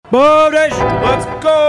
Boom Nation! Let's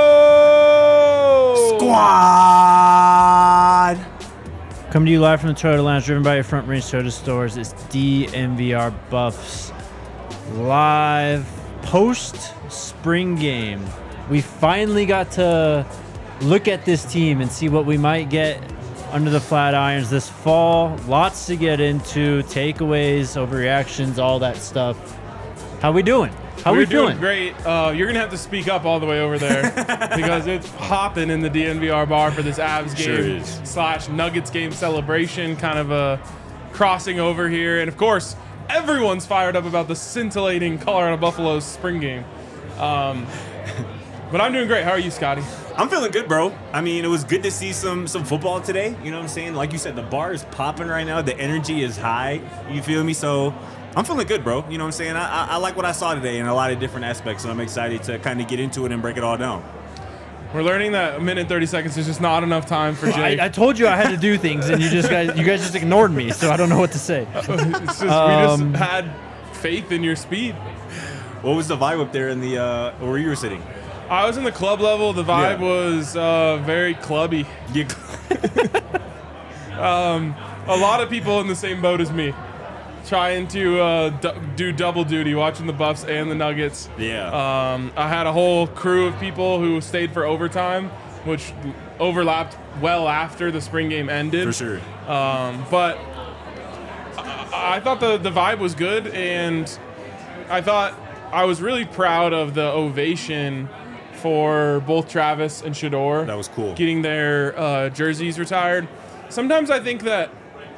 go! Squad! Coming to you live from the Toyota Lounge, driven by your Front Range Toyota stores. It's DNVR Buffs live post-spring game. We finally got to look at this team and see what we might get under the Flatirons this fall. Lots to get into, takeaways, overreactions, all that stuff. How we doing? How we feeling? Great. You're going to have to speak up all the way over there because it's popping in the DNVR bar for this Avs game / Nuggets game celebration, kind of a crossing over here. And, of course, everyone's fired up about the scintillating Colorado Buffaloes spring game. But I'm doing great. How are you, Scotty? I'm feeling good, bro. I mean, it was good to see some football today. You know what I'm saying? Like you said, the bar is popping right now. The energy is high. You feel me? So I'm feeling good, bro. You know what I'm saying? I like what I saw today in a lot of different aspects, and I'm excited to kind of get into it and break it all down. We're learning that a minute and 30 seconds is just not enough time for Jake. I told you I had to do things, and you guys just ignored me, so I don't know what to say. It's just, we just had faith in your speed. What was the vibe up there in the where you were sitting? I was in the club level. The vibe was very clubby. A lot of people in the same boat as me, trying to do double duty, watching the Buffs and the Nuggets. Yeah. I had a whole crew of people who stayed for overtime, which overlapped well after the spring game ended. For sure. But I thought the vibe was good, and I thought I was really proud of the ovation for both Travis and Shedeur. That was cool. Getting their jerseys retired. Sometimes I think that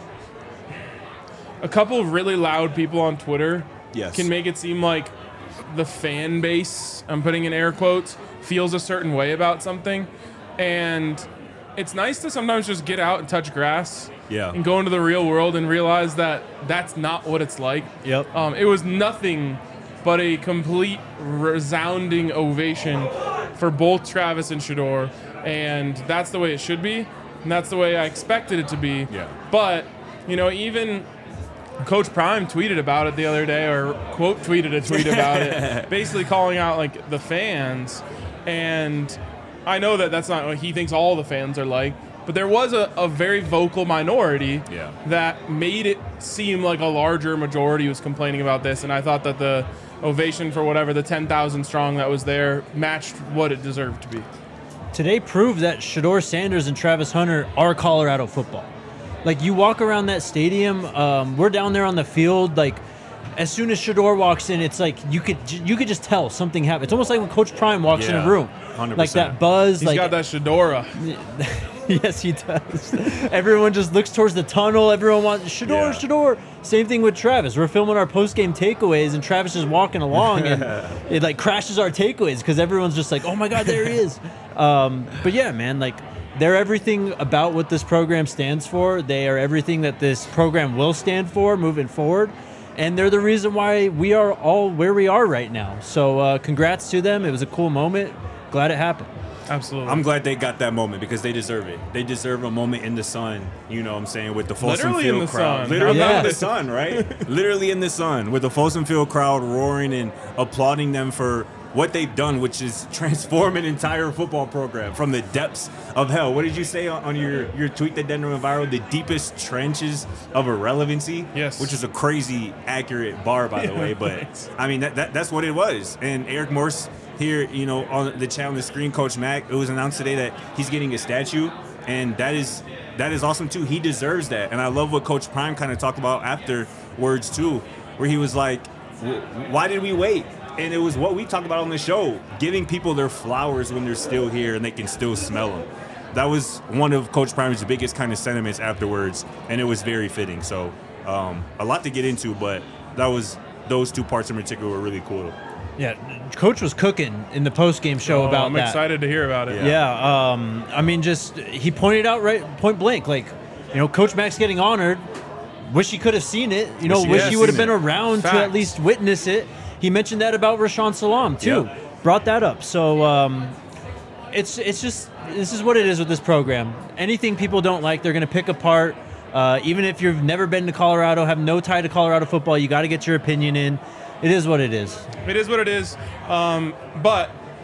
a couple of really loud people on Twitter can make it seem like the fan base, I'm putting in air quotes, feels a certain way about something. And it's nice to sometimes just get out and touch grass and go into the real world and realize that that's not what it's like. Yep. It was nothing but a complete resounding ovation for both Travis and Shedeur, and that's the way it should be, and that's the way I expected it to be. Yeah. But, you know, even Coach Prime tweeted about it the other day, or quote tweeted a tweet about it, basically calling out, like, the fans, and I know that that's not what he thinks all the fans are like, but there was a very vocal minority that made it seem like a larger majority was complaining about this, and I thought that the ovation for whatever the 10,000 strong that was there matched what it deserved to be. Today proved that Shedeur Sanders and Travis Hunter are Colorado football. Like, you walk around that stadium, we're down there on the field, like, as soon as Shedeur walks in, it's like you could just tell something happened. It's almost like when Coach Prime walks in a room. 100%. Like that buzz. He's got that Shedora. Yes, he does. Everyone just looks towards the tunnel. Everyone wants Shedeur. Same thing with Travis. We're filming our post-game takeaways, and Travis is walking along, and it like crashes our takeaways because everyone's just like, "Oh my God, there he is!" But yeah, man, like they're everything about what this program stands for. They are everything that this program will stand for moving forward, and they're the reason why we are all where we are right now. So, congrats to them. It was a cool moment. Glad it happened. Absolutely. I'm glad they got that moment because they deserve it. They deserve a moment in the sun, you know what I'm saying, with the Folsom Literally in Field the crowd. sun. Literally Yeah. in the sun, right? Literally in the sun with the Folsom Field crowd roaring and applauding them for what they've done, which is transform an entire football program from the depths of hell. What did you say on your tweet that then went viral? The deepest trenches of irrelevancy? Yes. Which is a crazy accurate bar, by the way. But, I mean, that's what it was. And Eric Morse here, you know, on the chat on the screen, Coach Mack, it was announced today that he's getting a statue, and that is awesome too. He deserves that, and I love what Coach Prime kind of talked about afterwards too, where he was like, "Why did we wait?" And it was what we talked about on the show, giving people their flowers when they're still here and they can still smell them. That was one of Coach Prime's biggest kind of sentiments afterwards, and it was very fitting. So a lot to get into, but those two parts in particular were really cool. Yeah, Coach was cooking in the post-game show about I'm that. excited to hear about it. Yeah, I mean, just he pointed out right point blank, like, you know, Coach Mack's getting honored. Wish he could have seen it. You know, wish he would have been around to at least witness it. He mentioned that about Rashawn Salam too. Yep. Brought that up. So it's just this is what it is with this program. Anything people don't like, they're going to pick apart. Even if you've never been to Colorado, have no tie to Colorado football, you got to get your opinion in. It is what it is. It is what it is. But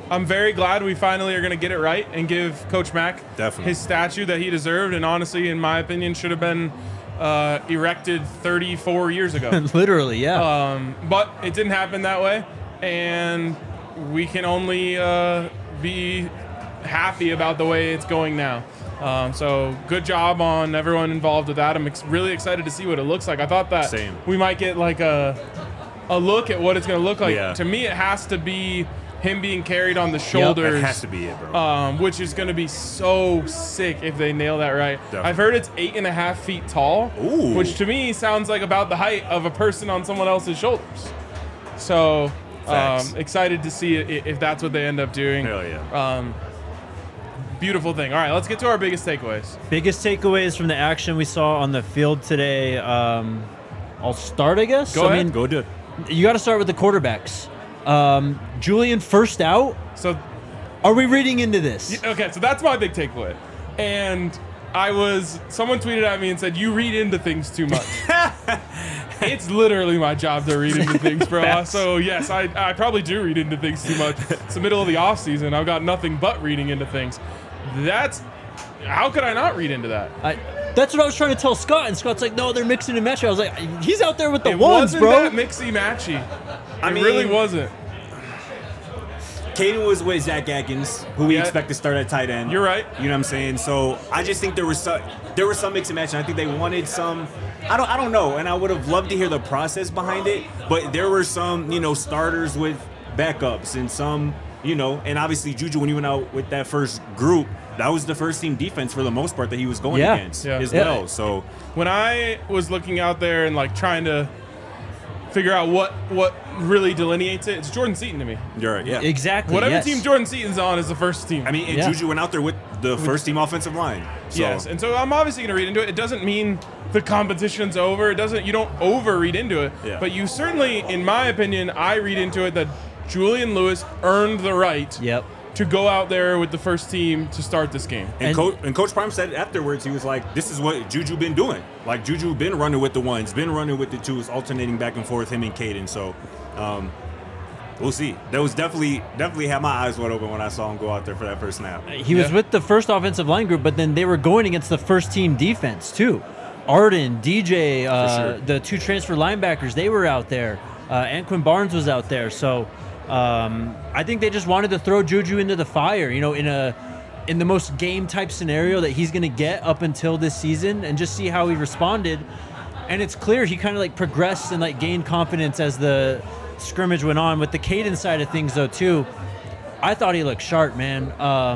I'm very glad we finally are going to get it right and give Coach Mack Definitely. his statue that he deserved, and honestly, in my opinion, should have been erected 34 years ago. Literally, yeah. But it didn't happen that way, and we can only be happy about the way it's going now. So good job on everyone involved with that. I'm really excited to see what it looks like. I thought that we might get like a look at what it's going to look like. Yeah. To me, it has to be him being carried on the shoulders. That has to be it, bro. Which is going to be so sick if they nail that right. Definitely. I've heard it's 8.5 feet tall, Ooh. which to me sounds like about the height of a person on someone else's shoulders. So excited to see if that's what they end up doing. Hell yeah. Beautiful thing. All right, let's get to our biggest takeaways. Biggest takeaways from the action we saw on the field today. I'll start, I guess. Go ahead. Go do it. You got to start with the quarterbacks. Julian first out. So, Are we reading into this? okay, so that's my big takeaway. And someone tweeted at me and said, "You read into things too much." It's literally my job to read into things, bro. So yes, I probably do read into things too much. It's the middle of the off season. I've got nothing but reading into things. How could I not read into that? That's what I was trying to tell Scott, and Scott's like, "No, they're mixing and matching." I was like, "He's out there with the It ones, wasn't bro." that mixy matchy. I It mean, really wasn't. Caden was with Zach Atkins, who we Yeah. expect to start at tight end. You're right. You know what I'm saying? So I just think there was some mix and match, and I think they wanted some. I don't know, and I would have loved to hear the process behind it. But there were some, starters with backups, and some, and obviously Juju, when he went out with that first group, that was the first team defense for the most part that he was going against as well. So When I was looking out there and like trying to figure out what really delineates it, it's Jordan Seaton to me. you're right, yeah. Exactly. Whatever yes. team Jordan Seaton's on is the first team. I mean, and Yeah. Juju went out there with the first team offensive line. So. Yes, and so I'm obviously going to read into it. It doesn't mean the competition's over. You don't over read into it. Yeah. But you certainly, in my opinion, I read into it that Julian Lewis earned the right Yep. to go out there with the first team to start this game. And Coach Prime said afterwards, he was like, "This is what Juju been doing. Like Juju been running with the ones, been running with the twos, alternating back and forth, him and Caden." So we'll see. That was definitely had my eyes wide open when I saw him go out there for that first snap. He was with the first offensive line group, but then they were going against the first team defense too. Arden, DJ, sure. the two transfer linebackers, they were out there. Anquin Barnes was out there. So I think they just wanted to throw Juju into the fire, in the most game type scenario that he's going to get up until this season, and just see how he responded. And it's clear he kind of like progressed and like gained confidence as the scrimmage went on. With the Caden side of things though too, I thought he looked sharp, man.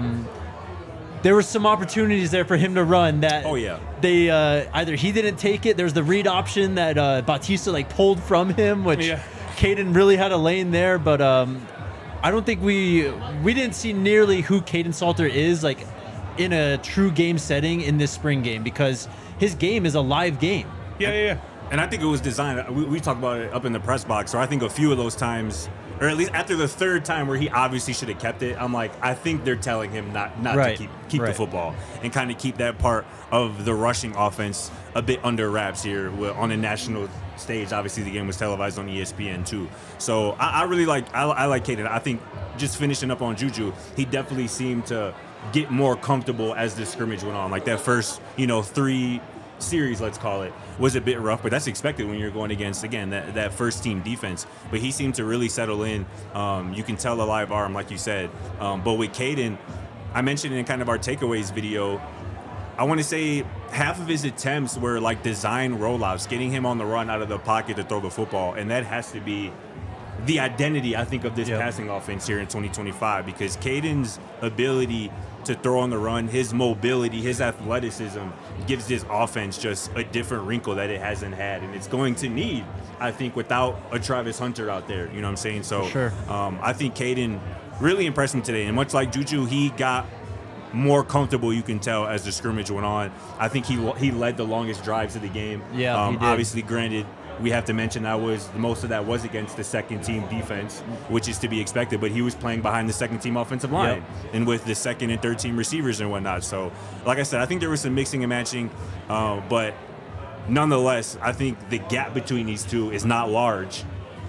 There were some opportunities there for him to run that they either he didn't take it. There's the read option that Bautista like pulled from him, which Caden really had a lane there. But I don't think we didn't see nearly who Caden Salter is like in a true game setting in this spring game, because his game is a live game. Yeah. And I think it was designed. We talked about it up in the press box. So I think a few of those times, or at least after the third time where he obviously should have kept it, I'm like, I think they're telling him not Right. to keep the football and kind of keep that part of the rushing offense a bit under wraps here on a national stage. Obviously, the game was televised on ESPN too. So I really I like Caden. I think just finishing up on Juju, he definitely seemed to get more comfortable as the scrimmage went on. Like that first, 3 series, let's call it, was a bit rough, but that's expected when you're going against, again, that first team defense. But he seemed to really settle in. You can tell a live arm, like you said. But with Caden, I mentioned in kind of our takeaways video, I want to say half of his attempts were like design rollouts, getting him on the run out of the pocket to throw the football. And that has to be the identity, I think, of this passing offense here in 2025, because Caden's ability to throw on the run, his mobility, his athleticism gives this offense just a different wrinkle that it hasn't had, and it's going to need, I think, without a Travis Hunter out there. You know what I'm saying? So sure. I think Caden really impressed me today, and much like Juju, he got more comfortable, you can tell, as the scrimmage went on. I think he led the longest drives of the game. Yeah, he did. Obviously, granted, we have to mention most of that was against the second team defense, which is to be expected, but he was playing behind the second team offensive line and with the second and third team receivers and whatnot. So like I said, I think there was some mixing and matching, but nonetheless, I think the gap between these two is not large.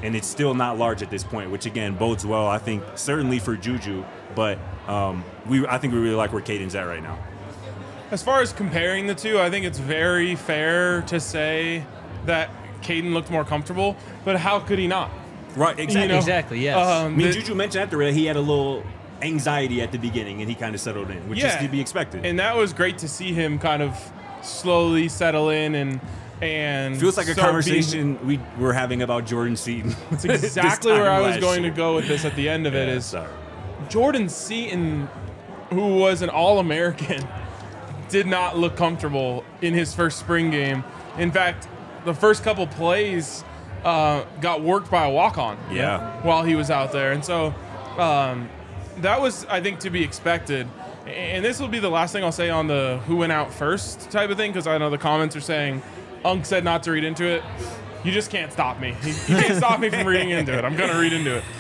and it's still not large at this point, which again bodes well. I think certainly for Juju, but I think we really like where Caden's at right now. As far as comparing the two, I think it's very fair to say that Caden looked more comfortable, but how could he not? Right, exactly. You know, Exactly, yes. I mean, Juju mentioned after that he had a little anxiety at the beginning, and he kind of settled in, which is to be expected. And that was great to see him kind of slowly settle in and feels like a start conversation we were having about Jordan Seaton. It's exactly where I was going to go with this at the end of it is Jordan Seaton, who was an All-American, did not look comfortable in his first spring game. In fact, the first couple plays got worked by a walk-on while he was out there. And so that was, I think, to be expected. And this will be the last thing I'll say on the who went out first type of thing, because I know the comments are saying, Unk said not to read into it. You just can't stop me. You can't stop me from reading into it. I'm going to read into it.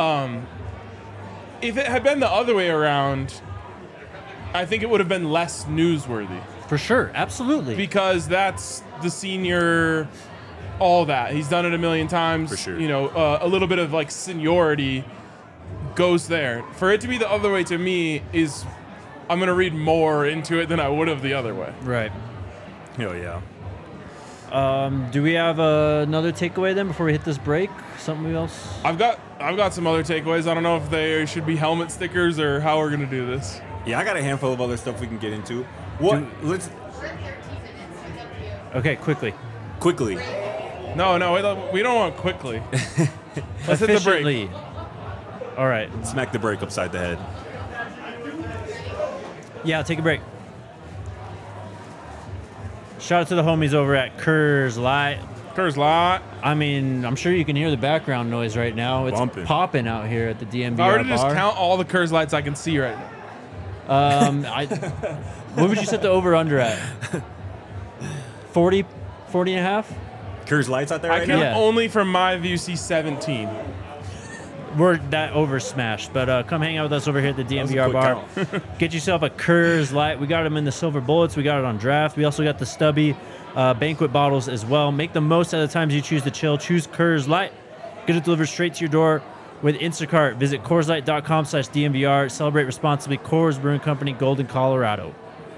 If it had been the other way around, I think it would have been less newsworthy. For sure, absolutely. Because that's the senior, all that. He's done it a million times. For sure. You know, a little bit of like seniority goes there. For it to be the other way to me is, I'm going to read more into it than I would have the other way. Right. Hell yeah. Do we have another takeaway then before we hit this break? Something else? I've got some other takeaways. I don't know if they should be helmet stickers or how we're going to do this. Yeah, I got a handful of other stuff we can get into. Let's Okay, quickly. No, we don't want quickly. Let's hit the break. Efficiently. All right. smack the break upside the head. Yeah, I'll take a break. Shout out to the homies over at Coors Light. Coors Light. I mean, I'm sure you can hear the background noise right now. It's Bumping. popping out here at the DMVR I already bar. just count all the Coors Lights I can see right now. What would you set the over-under at? 40 and a half? Coors Lights out there I right can now? Yeah. only from my view see 17. We're that over smashed, but come hang out with us over here at the was a DMVR quick bar. Get yourself a Coors Light. We got them in the silver bullets. We got it on draft. We also got the stubby banquet bottles as well. Make the most out of the times you choose to chill. Choose Coors Light. Get it delivered straight to your door with Instacart. Visit CoorsLight.com/DMVR. Celebrate responsibly. Coors Brewing Company, Golden, Colorado.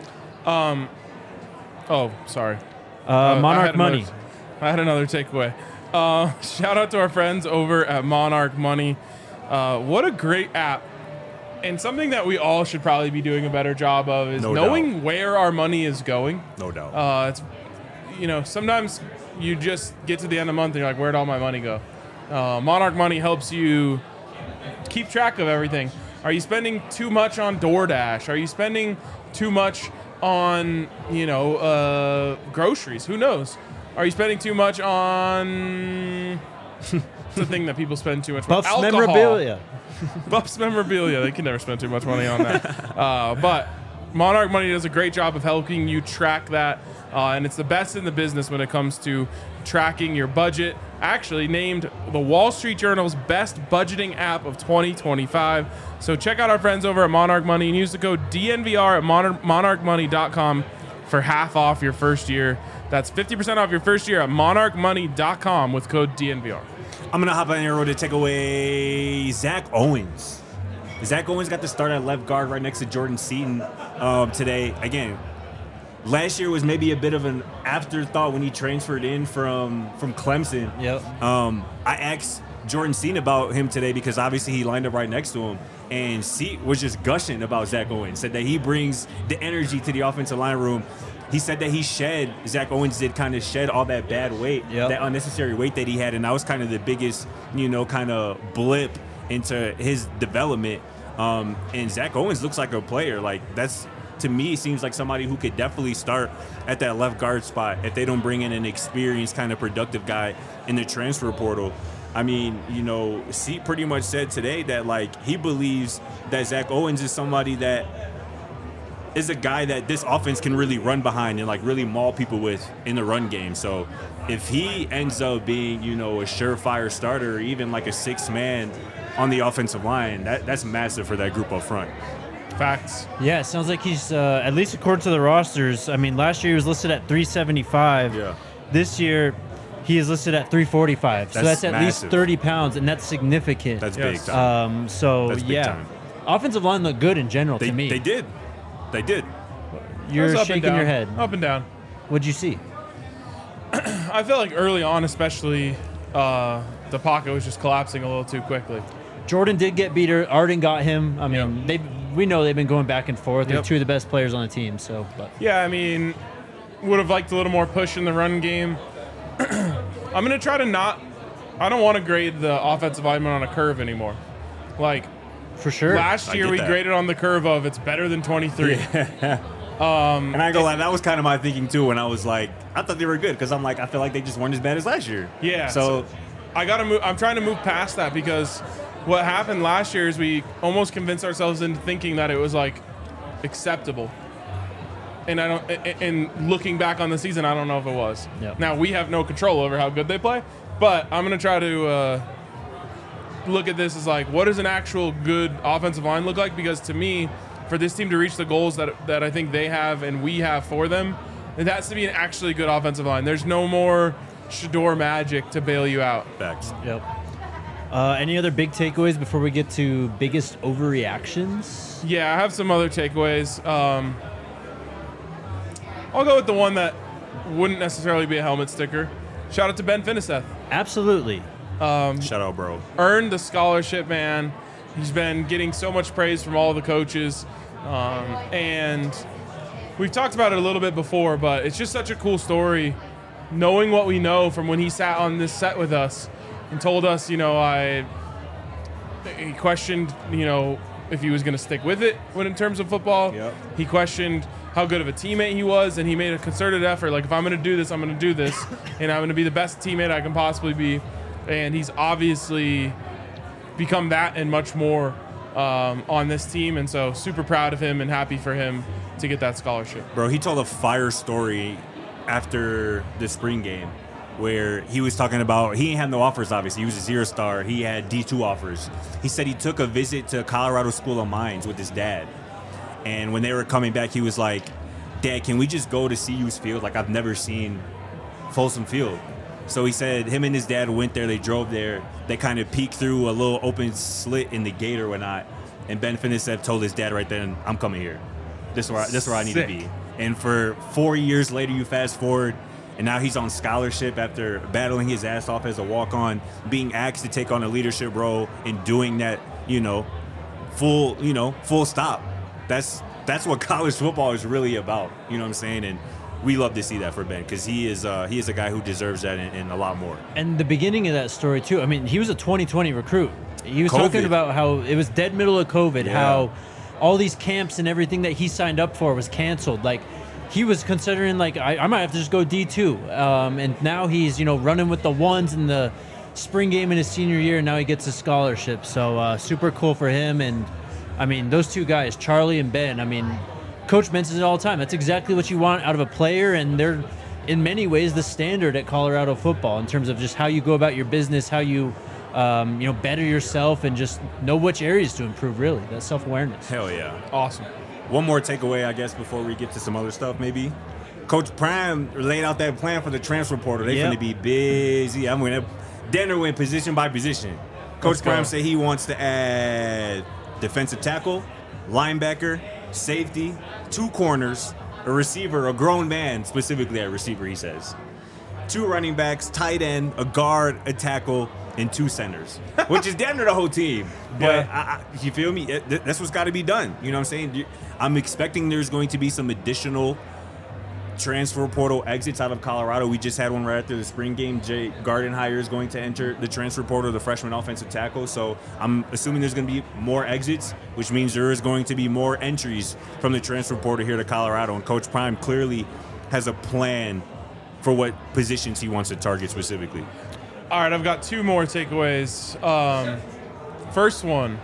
Oh, sorry. Monarch Money. I had another takeaway. Shout out to our friends over at Monarch Money. What a great app. And something that we all should probably be doing a better job of is No knowing doubt. where our money is going. No doubt. It's, sometimes you just get to the end of the month and you're like, where'd all my money go? Monarch Money helps you keep track of everything. Are you spending too much on DoorDash? Are you spending too much on, groceries? Who knows? Are you spending too much on the thing that people spend too much on? Buffs Alcohol. memorabilia. Buffs memorabilia. They can never spend too much money on that. But Monarch Money does a great job of helping you track that. And it's the best in the business when it comes to tracking your budget. Actually named the Wall Street Journal's best budgeting app of 2025. So check out our friends over at Monarch Money and use the code DNVR at monarchmoney.com for half off your first year. That's 50% off your first year at monarchmoney.com with code DNVR. I'm going to hop on your road to take away Zach Owens. Zach Owens got the start at left guard right next to Jordan Seaton today. Again, last year was maybe a bit of an afterthought when he transferred in from Clemson. Yep. I asked Jordan Seaton about him today because obviously he lined up right next to him. And Seaton was just gushing about Zach Owens. Said that he brings the energy to the offensive line room. He said that Zach Owens did kind of shed all that bad weight, that unnecessary weight that he had. And that was kind of the biggest, kind of blip into his development. And Zach Owens looks like a player. Like, that's, to me, seems like somebody who could definitely start at that left guard spot if they don't bring in an experienced kind of productive guy in the transfer portal. I mean, C pretty much said today that, like, he believes that Zach Owens is somebody that is a guy that this offense can really run behind and, like, really maul people with in the run game. So if he ends up being, a surefire starter or even like a sixth man on the offensive line, that's massive for that group up front. Facts. Yeah, it sounds like he's, at least according to the rosters, I mean, last year he was listed at 375. Yeah. This year, He is listed at 345. So That's that's at least massive. 30 pounds, and that's significant. That's Yes. big time. So That's big yeah, time. offensive line looked good in general to me. They did. They did. You're It was up and shaking down. your head. Up and down. What'd you see? I feel like early on, especially, the pocket was just collapsing a little too quickly. Jordan did get beat. Arden got him. I mean, we know they've been going back and forth. They're Yep. two of the best players on the team. So, but Yeah, I mean, would have liked a little more push in the run game. I'm going to try to not. I don't want to grade the offensive lineman on a curve anymore. Like, for sure. last I year get we that. graded on the curve of it's better than 23. And I ain't gonna lie, that was kind of my thinking too. When I was like, I thought they were good because I'm like, I feel like they just weren't as bad as last year. Yeah. So I gotta move. I'm trying to move past that because what happened last year is we almost convinced ourselves into thinking that it was like acceptable. And I don't. And looking back on the season, I don't know if it was. Yep. Now we have no control over how good they play, but I'm gonna try to look at this as like, what does an actual good offensive line look like? Because to me, for this team to reach the goals that I think they have and we have for them, it has to be an actually good offensive line. There's no more Shador magic to bail you out. facts. Yep. Any other big takeaways before we get to biggest overreactions? Yeah, I have some other takeaways. I'll go with the one that wouldn't necessarily be a helmet sticker. Shout out to Ben Finiseth. Absolutely. Shout out, bro. Earned the scholarship, man. He's been getting so much praise from all the coaches. And we've talked about it a little bit before, but it's just such a cool story knowing what we know from when he sat on this set with us and told us, he questioned, if he was going to stick with it in terms of football. Yep. He questioned how good of a teammate he was, and he made a concerted effort. Like, if I'm going to do this, I'm going to do this, and I'm going to be the best teammate I can possibly be. And he's obviously become that and much more on this team, and so super proud of him and happy for him to get that scholarship. Bro, he told a fire story after the spring game where he was talking about he didn't have no offers, obviously. He was a 0-star. He had D2 offers. He said he took a visit to Colorado School of Mines with his dad. And when they were coming back, he was like, Dad, can we just go to CU's field? Like, I've never seen Folsom Field. So he said him and his dad went there. They drove there. They kind of peeked through a little open slit in the gate or whatnot. And Ben Finiseth told his dad right then, I'm coming here. This is where I need to Sick. be. And for 4 years later, you fast forward, and now he's on scholarship after battling his ass off as a walk-on, being asked to take on a leadership role and doing that, full stop. That's what college football is really about. You know what I'm saying? And we love to see that for Ben because he is a guy who deserves that and a lot more. And the beginning of that story too. I mean, he was a 2020 recruit. He was COVID. talking about how it was dead middle of COVID, Yeah. how all these camps and everything that he signed up for was canceled. Like, he was considering, like, I might have to just go D2. And now he's, running with the ones in the spring game in his senior year, and now he gets a scholarship. So super cool for him. And I mean, those two guys, Charlie and Ben, I mean, Coach mentions it all the time. That's exactly what you want out of a player, and they're in many ways the standard at Colorado football in terms of just how you go about your business, how you better yourself, and just know which areas to improve. Really, that self-awareness. Hell yeah. Awesome. One more takeaway, I guess, before we get to some other stuff, maybe. Coach Prime laid out that plan for the transfer portal. They're Yep. going to be busy. I'm going to Denver went position by position. Coach Let's go. Prime said he wants to add defensive tackle, linebacker, safety, 2 corners, a receiver, a grown man, specifically at receiver, he says. 2 running backs, tight end, a guard, a tackle, and 2 centers, which is damn near the whole team. But you feel me? That's what's got to be done. You know what I'm saying? I'm expecting there's going to be some additional transfer portal exits out of Colorado. We just had one right after the spring game. Jay Gardenhire is going to enter the transfer portal, the freshman offensive tackle. So I'm assuming there's going to be more exits, which means there is going to be more entries from the transfer portal here to Colorado. And Coach Prime clearly has a plan for what positions he wants to target specifically. All right, I've got 2 more takeaways. First one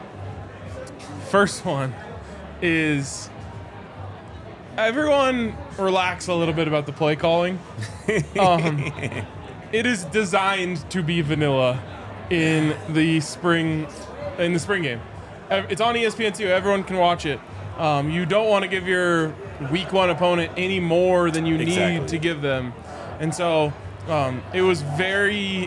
is everyone relax a little bit about the play calling. It is designed to be vanilla in the spring game. It's on ESPN2. Everyone can watch it. You don't want to give your week 1 opponent any more than you Exactly. need to give them. And so It was very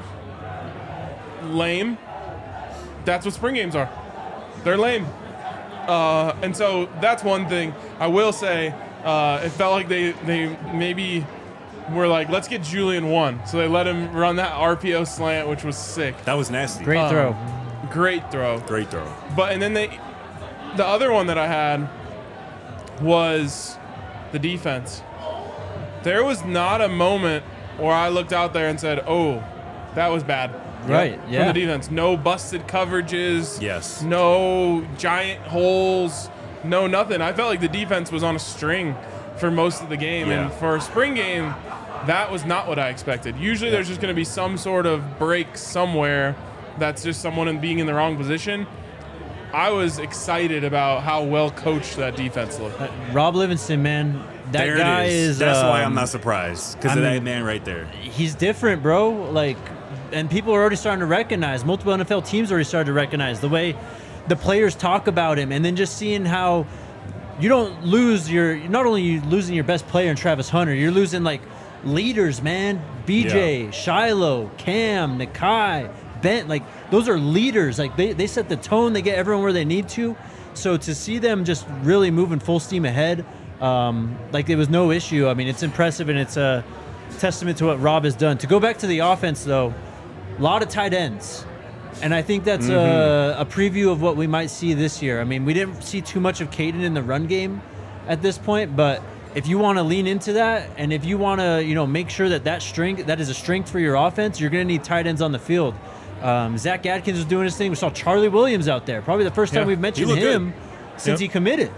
lame. That's what spring games are. They're lame. And so that's one thing. I will say it felt like they maybe were like, let's get Julian one. So they let him run that RPO slant, which was sick. That was nasty. Great throw. Great throw. Great throw. But and then the other one that I had was the defense. There was not a moment where I looked out there and said, oh, that was bad. Right, yeah. From the defense. No busted coverages. Yes. No giant holes. No nothing. I felt like the defense was on a string for most of the game. Yeah. And for a spring game, that was not what I expected. Usually there's just going to be some sort of break somewhere that's just someone being in the wrong position. I was excited about how well coached that defense looked. Rob Livingston, man, that There guy it is. is. That's why I'm not surprised, because of I that mean- man right there. He's different, bro. Like, and people are already starting to recognize. Multiple NFL teams already started to recognize the way the players talk about him, and then just seeing how you don't lose not only you losing your best player in Travis Hunter, you're losing like leaders, man. BJ, Shiloh, Cam, Nakai, Bent, like those are leaders. Like they set the tone. They get everyone where they need to. So to see them just really moving full steam ahead, like it was no issue. I mean, it's impressive, and it's a testament to what Rob has done. To go back to the offense, though, a lot of tight ends. And I think that's a preview of what we might see this year. I mean, we didn't see too much of Caden in the run game at this point, but if you want to lean into that, and if you want to, make sure that is a strength for your offense, you're going to need tight ends on the field. Zach Adkins was doing his thing. We saw Charlie Williams out there. Probably the first time we've mentioned him since he committed.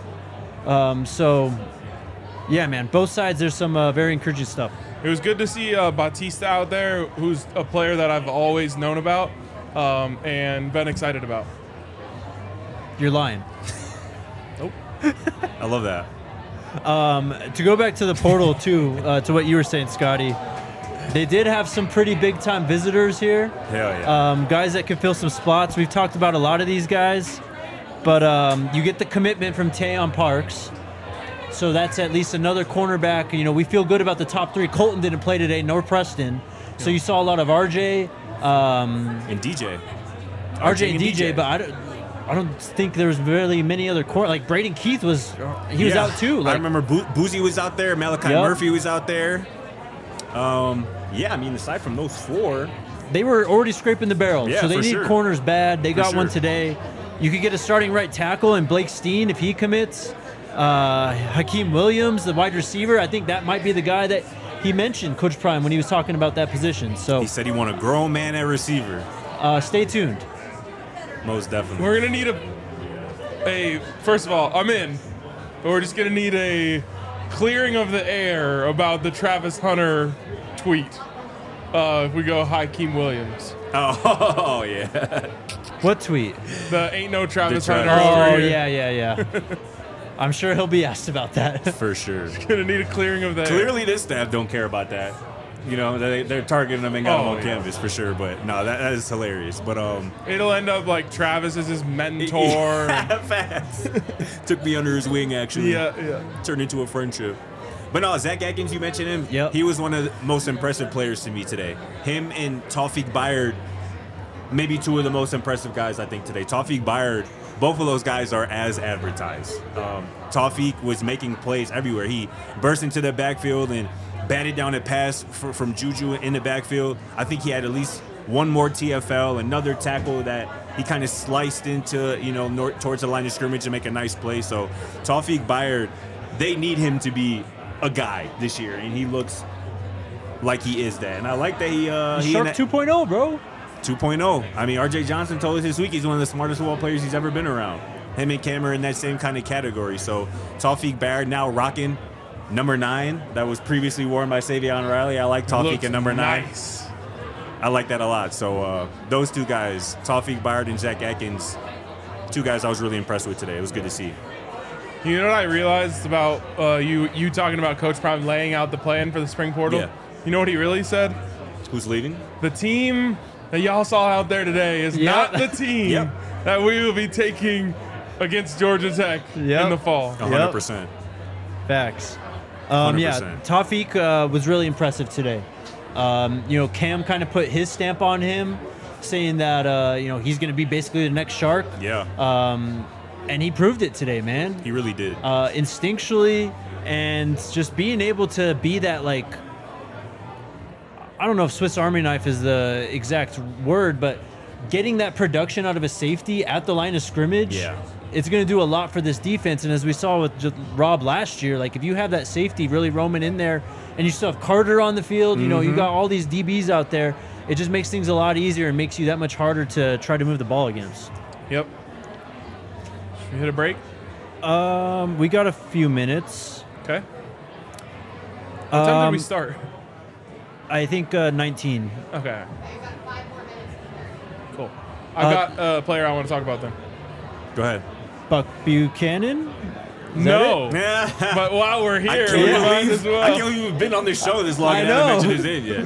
So, yeah, man, both sides, there's some very encouraging stuff. It was good to see Batista out there, who's a player that I've always known about and been excited about. You're lying. I love that. To go back to the portal, too, to what you were saying, Scotty, they did have some pretty big-time visitors here. Hell yeah. Guys that can fill some spots. We've talked about a lot of these guys, but you get the commitment from Tayon Parks. So that's at least another cornerback. We feel good about the top three. Colton didn't play today, nor Preston. So you saw a lot of RJ. And DJ. RJ and DJ, but I don't think there was really many other corner. Like Braden Keith was out too. I remember Boozy was out there. Malachi Murphy was out there. Yeah, I mean, aside from those four, they were already scraping the barrel. Yeah, so they for need sure. corners bad. They got sure. one today. You could get a starting right tackle in Blake Steen if he commits. Hakeem Williams, the wide receiver, I think that might be the guy that he mentioned, Coach Prime, when he was talking about that position. So he said he want a grown man at receiver. Stay tuned. Most definitely. We're going to need a first of all, I'm in, but we're just going to need a clearing of the air about the Travis Hunter tweet. If we go Hakeem Williams. Oh yeah. What tweet? The ain't no Travis The Hunter Travis- over Oh, here. yeah. I'm sure he'll be asked about that. For sure. Gonna need a clearing of the air. Clearly, this staff don't care about that. They're targeting him and got him on yeah. canvas for sure. But no, that is hilarious. But It'll end up like Travis is his mentor. Facts. Took me under his wing actually. yeah. Turned into a friendship. But no, Zach Atkins, you mentioned him. Yep. He was one of the most impressive players to me today. Him and Tawfiq Bayard, maybe two of the most impressive guys I think today. Tawfiq Bayard, both of those guys are as advertised. Tawfiq was making plays everywhere. He burst into the backfield and batted down a pass from Juju in the backfield. I think he had at least one more TFL, another tackle that he kind of sliced into, towards the line of scrimmage to make a nice play. So Tawfiq Bayard, they need him to be a guy this year, and he looks like he is that. And I like that he Shark 2.0, bro. 2.0. I mean, RJ Johnson told us this week he's one of the smartest football players he's ever been around. Him and Cam are in that same kind of category. So Tawfiq Bayard now rocking number 9 that was previously worn by Savion Riley. I like Tawfiq Looks at number 9. nice. I like that a lot. So those two guys, Tawfiq Bayard and Zach Atkins, two guys I was really impressed with today. It was good to see. You know what I realized about you talking about Coach Prime laying out the plan for the spring portal? Yeah. You know what he really said? Who's leaving? The team that y'all saw out there today is not the team Yep. that we will be taking against Georgia Tech in the fall. 100%. Facts. 100%. Yeah, Tawfiq was really impressive today. Cam kind of put his stamp on him, saying that he's going to be basically the next Shark. Yeah. And he proved it today, man. He really did. Instinctually, and just being able to be that, like, I don't know if Swiss Army knife is the exact word, but getting that production out of a safety at the line of scrimmage, it's going to do a lot for this defense. And as we saw with just Rob last year, like, if you have that safety really roaming in there and you still have Carter on the field, you got all these DBs out there, it just makes things a lot easier and makes you that much harder to try to move the ball against. Yep. Should we hit a break? We got a few minutes. Okay. What time did we start? I think 19. Okay. Cool. I got a player I want to talk about then. Go ahead. Buck Buchanan? No. Yeah. But while we're here, I we might as well. can't believe we've been on this show this long I and know. haven't mentioned his name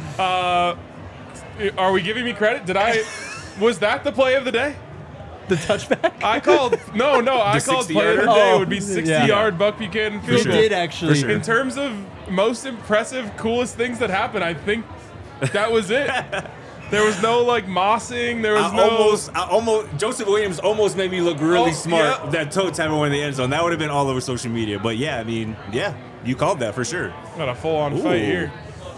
yet. Are we giving me credit? Was that the play of the day? The touchback? I called player of the day would be 60-yard Buck Buchanan We field goal. did actually. For sure. In terms of most impressive, coolest things that happened, I think that was it. There was no mossing. There was Joseph Williams almost made me look really smart. Yeah. That toe tap in the end zone. That would have been all over social media. But yeah, I mean, you called that for sure. Got a full-on fight here.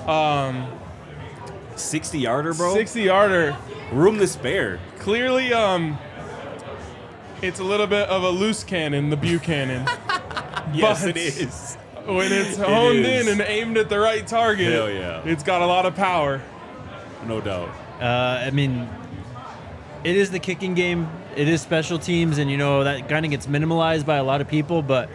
60-yarder, bro. 60-yarder. Room to spare. Clearly, it's a little bit of a loose cannon, the Buchanan. Yes, But it is. When it's honed is. in and aimed at the right target, Hell yeah. it's got a lot of power. No doubt. I mean, it is the kicking game. It is special teams, and that kind of gets minimalized by a lot of people. But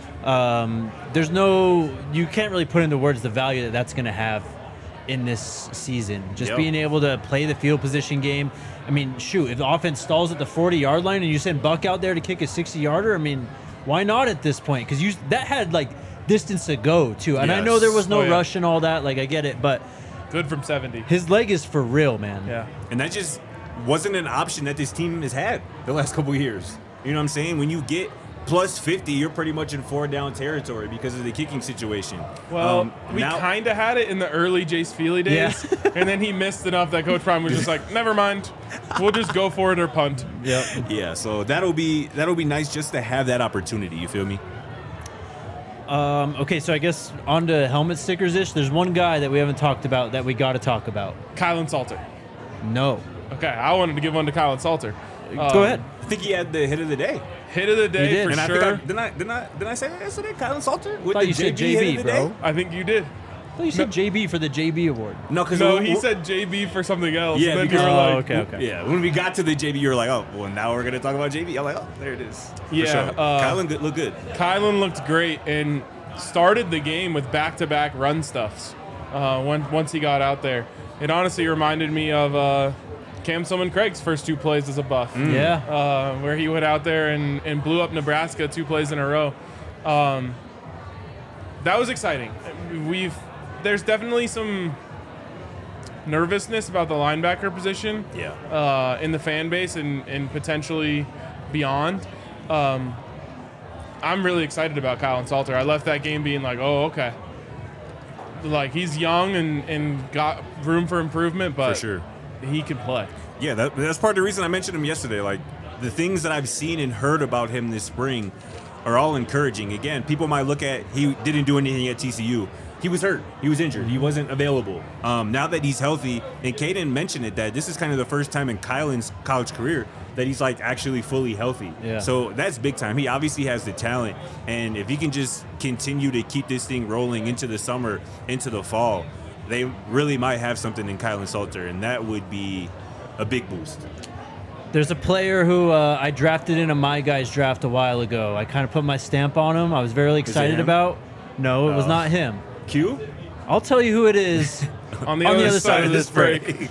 you can't really put into words the value that that's going to have in this season. Just being able to play the field position game. I mean, shoot, if the offense stalls at the 40-yard line and you send Buck out there to kick a 60-yarder, I mean, why not at this point? Because that had distance to go too, and I know there was no rush and all that. Like, I get it, but Good from 70. his leg is for real, man. Yeah. And that just wasn't an option that this team has had the last couple of years. You know what I'm saying? When you get plus 50, you're pretty much in 4-down territory because of the kicking situation. Well, we now- kind of had it in the early Jace Feely days, and then he missed enough that Coach Prime was just like, never mind, we'll just go for it or punt. Yep. Yeah, so that'll be nice just to have that opportunity. You feel me? Okay, so I guess on to helmet stickers-ish. There's one guy that we haven't talked about that we got to talk about. Kylan Salter. No. Okay, I wanted to give one to Kylan Salter. Go ahead. I think he had the hit of the day. Hit of the day did. for And sure. I think didn't I say that yesterday? Kylan Salter with Thought the you said JB hit JB, of the bro. day? I think you did. I thought you said JB for the JB award. No, because No, he said JB for something else. Yeah, and then you because- were like, okay. Yeah, when we got to the JB, you were like, oh, well, now we're gonna talk about JB. I'm like, oh, there it is. For Yeah, sure. Kylan looked good. Kylan looked great and started the game with back-to-back run stuffs once he got out there. It honestly reminded me of Cam Summan-Craig's first two plays as a Buff. Yeah. Where he went out there and blew up Nebraska 2 plays in a row. That was exciting. There's definitely some nervousness about the linebacker position in the fan base and potentially beyond. I'm really excited about Kylan Salter. I left that game being like, oh, okay. Like, he's young and got room for improvement, but For sure. he can play. Yeah, that's part of the reason I mentioned him yesterday. Like, the things that I've seen and heard about him this spring are all encouraging. Again, people might look at he didn't do anything at TCU. He was hurt. He was injured. He wasn't available. Now that he's healthy, and Caden mentioned it, that this is kind of the first time in Kylan's college career that he's actually fully healthy. Yeah. So that's big time. He obviously has the talent, and if he can just continue to keep this thing rolling into the summer, into the fall, they really might have something in Kylan Salter, and that would be a big boost. There's a player who I drafted in a My Guys draft a while ago. I kind of put my stamp on him. I was very excited him? about. No, it was Oh. not him. Q? I'll tell you who it is. On the other side of this break.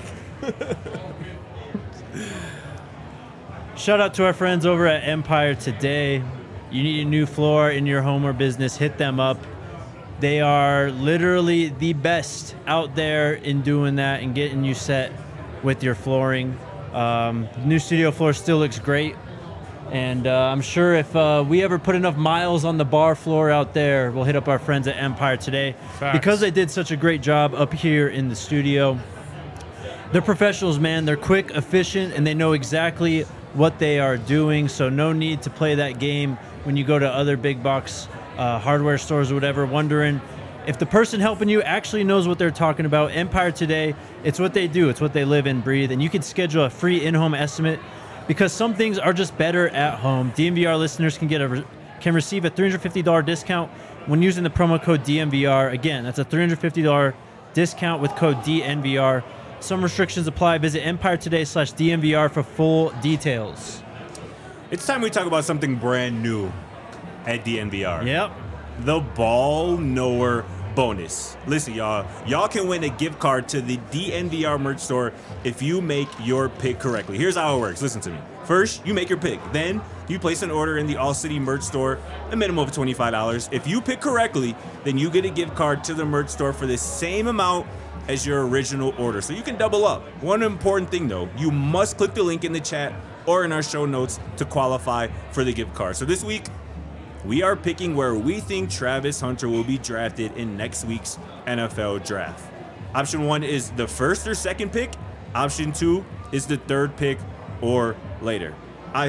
Shout out to our friends over at Empire Today. You need a new floor in your home or business, hit them up. They are literally the best out there in doing that and getting you set with your flooring. New studio floor still looks great. And I'm sure if we ever put enough miles on the bar floor out there, we'll hit up our friends at Empire today. Facts. Because they did such a great job up here in the studio. They're professionals, man. They're quick, efficient, and they know exactly what they are doing. So no need to play that game when you go to other big box hardware stores or whatever, wondering if the person helping you actually knows what they're talking about. Empire today, it's what they do. It's what they live and breathe. And you can schedule a free in-home estimate because some things are just better at home. DNVR listeners can receive a $350 discount when using the promo code DNVR. Again, that's a $350 discount with code DNVR. Some restrictions apply. Visit EmpireToday.com/DNVR for full details. It's time we talk about something brand new at DNVR. Yep. The Ball Knower bonus. Listen, y'all can win a gift card to the DNVR merch store if you make your pick correctly. Here's how it works. Listen to me. First, you make your pick. Then you place an order in the All City merch store, a minimum of $25. If you pick correctly, then you get a gift card to the merch store for the same amount as your original order. So you can double up. One important thing though, you must click the link in the chat or in our show notes to qualify for the gift card. So this week, we are picking where we think Travis Hunter will be drafted in next week's NFL draft. Option 1 is the first or second pick. Option 2 is the third pick or later. I'm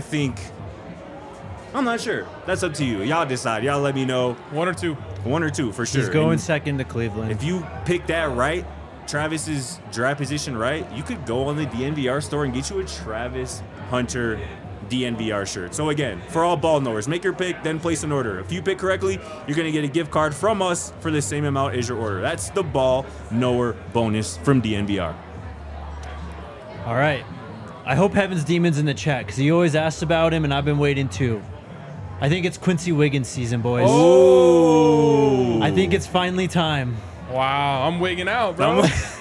not sure. That's up to you. Y'all decide. Y'all let me know. 1 or 2. 1 or 2 for sure. He's going And second to Cleveland. if you pick that right, Travis's draft position right, you could go on the DNVR store and get you a Travis Hunter DNVR shirt. So again, for all ball knowers, make your pick, then place an order. If you pick correctly, you're going to get a gift card from us for the same amount as your order. That's the Ball Knower bonus from DNVR. All right. I hope Heaven's Demon's in the chat because he always asks about him, and I've been waiting too. I think it's Quincy Wiggins season, boys. Oh! I think it's finally time. Wow, I'm wigging out, bro.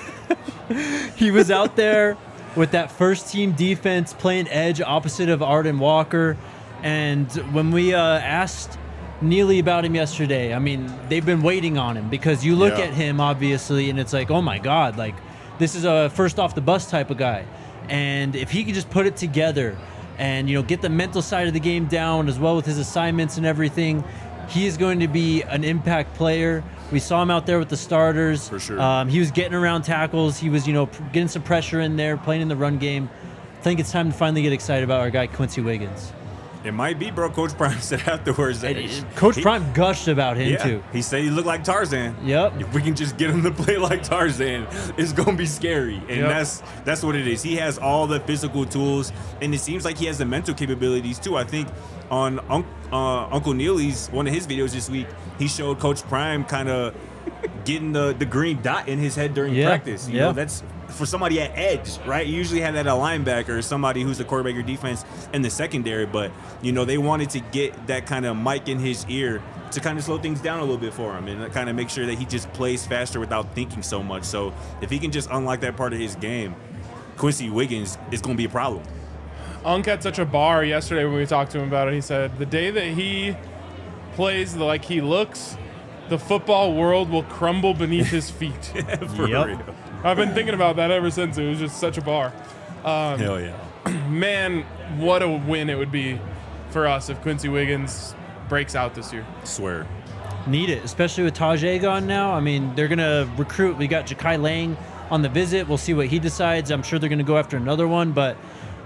He was out there with that first team defense playing edge opposite of Arden Walker. And when we asked Neely about him yesterday, I mean, they've been waiting on him because you look Yeah. at him, obviously, and it's like, oh my God, like this is a first off the bus type of guy. And if he could just put it together and, get the mental side of the game down as well with his assignments and everything, he is going to be an impact player. We saw him out there with the starters. For sure. He was getting around tackles. He was, getting some pressure in there, playing in the run game. I think it's time to finally get excited about our guy, Quincy Wiggins. It might be, bro. Coach Prime said afterwards that Coach Prime gushed about him, too. He said he looked like Tarzan. Yep. If we can just get him to play like Tarzan, it's gonna be scary, and Yep. that's what it is. He has all the physical tools, and it seems like he has the mental capabilities too. I think on Uncle Neely's one of his videos this week, he showed Coach Prime kind of getting the green dot in his head during practice. You know, that's for somebody at edge, right? You usually have that at a linebacker or somebody who's the quarterback or defense in the secondary, but they wanted to get that kind of mic in his ear to kind of slow things down a little bit for him and kind of make sure that he just plays faster without thinking so much. So if he can just unlock that part of his game, Quincy Wiggins is going to be a problem. Unk had such a bar yesterday when we talked to him about it. He said the day that he plays like he looks, the football world will crumble beneath his feet. For real. I've been thinking about that ever since. It was just such a bar. Hell yeah. Man, what a win it would be for us if Quincy Wiggins breaks out this year. Swear. Need it, especially with Tajay gone now. I mean, they're going to recruit. We got Ja'Kai Lang on the visit. We'll see what he decides. I'm sure they're going to go after another one, but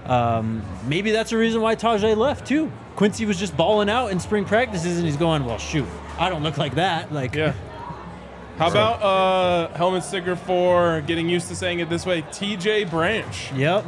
maybe that's the reason why Tajay left, too. Quincy was just balling out in spring practices, and he's going, well, shoot, I don't look like that. Yeah. How about helmet sticker for, getting used to saying it this way, TJ Branch, Yep.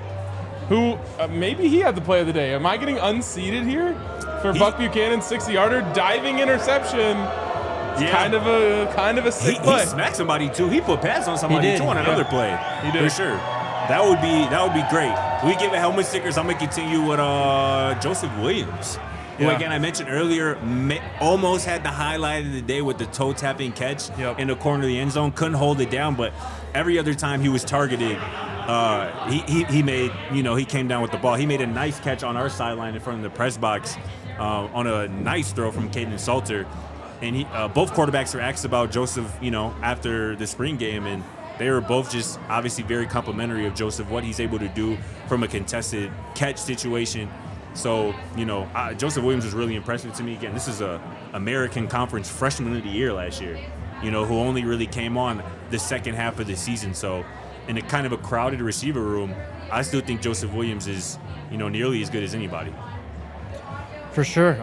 who maybe he had the play of the day. Am I getting unseated here for Buck Buchanan's 60-yarder diving interception? Yeah. Kind of a sick play. He smacked somebody too. He put pads on somebody did. too on another play. He did. For sure. That would be great. We give it helmet stickers. I'm gonna continue with Joseph Williams, who Yeah. again I mentioned earlier almost had the highlight of the day with the toe tapping catch in the corner of the end zone. Couldn't hold it down, but every other time he was targeted, he made he came down with the ball. He made a nice catch on our sideline in front of the press box on a nice throw from Caden Salter. And both quarterbacks were asked about Joseph, after the spring game, and they were both just obviously very complimentary of Joseph, what he's able to do from a contested catch situation. So, Joseph Williams was really impressive to me. Again, this is a American Conference Freshman of the Year last year, who only really came on the second half of the season. So, in a kind of a crowded receiver room, I still think Joseph Williams is, nearly as good as anybody. For sure.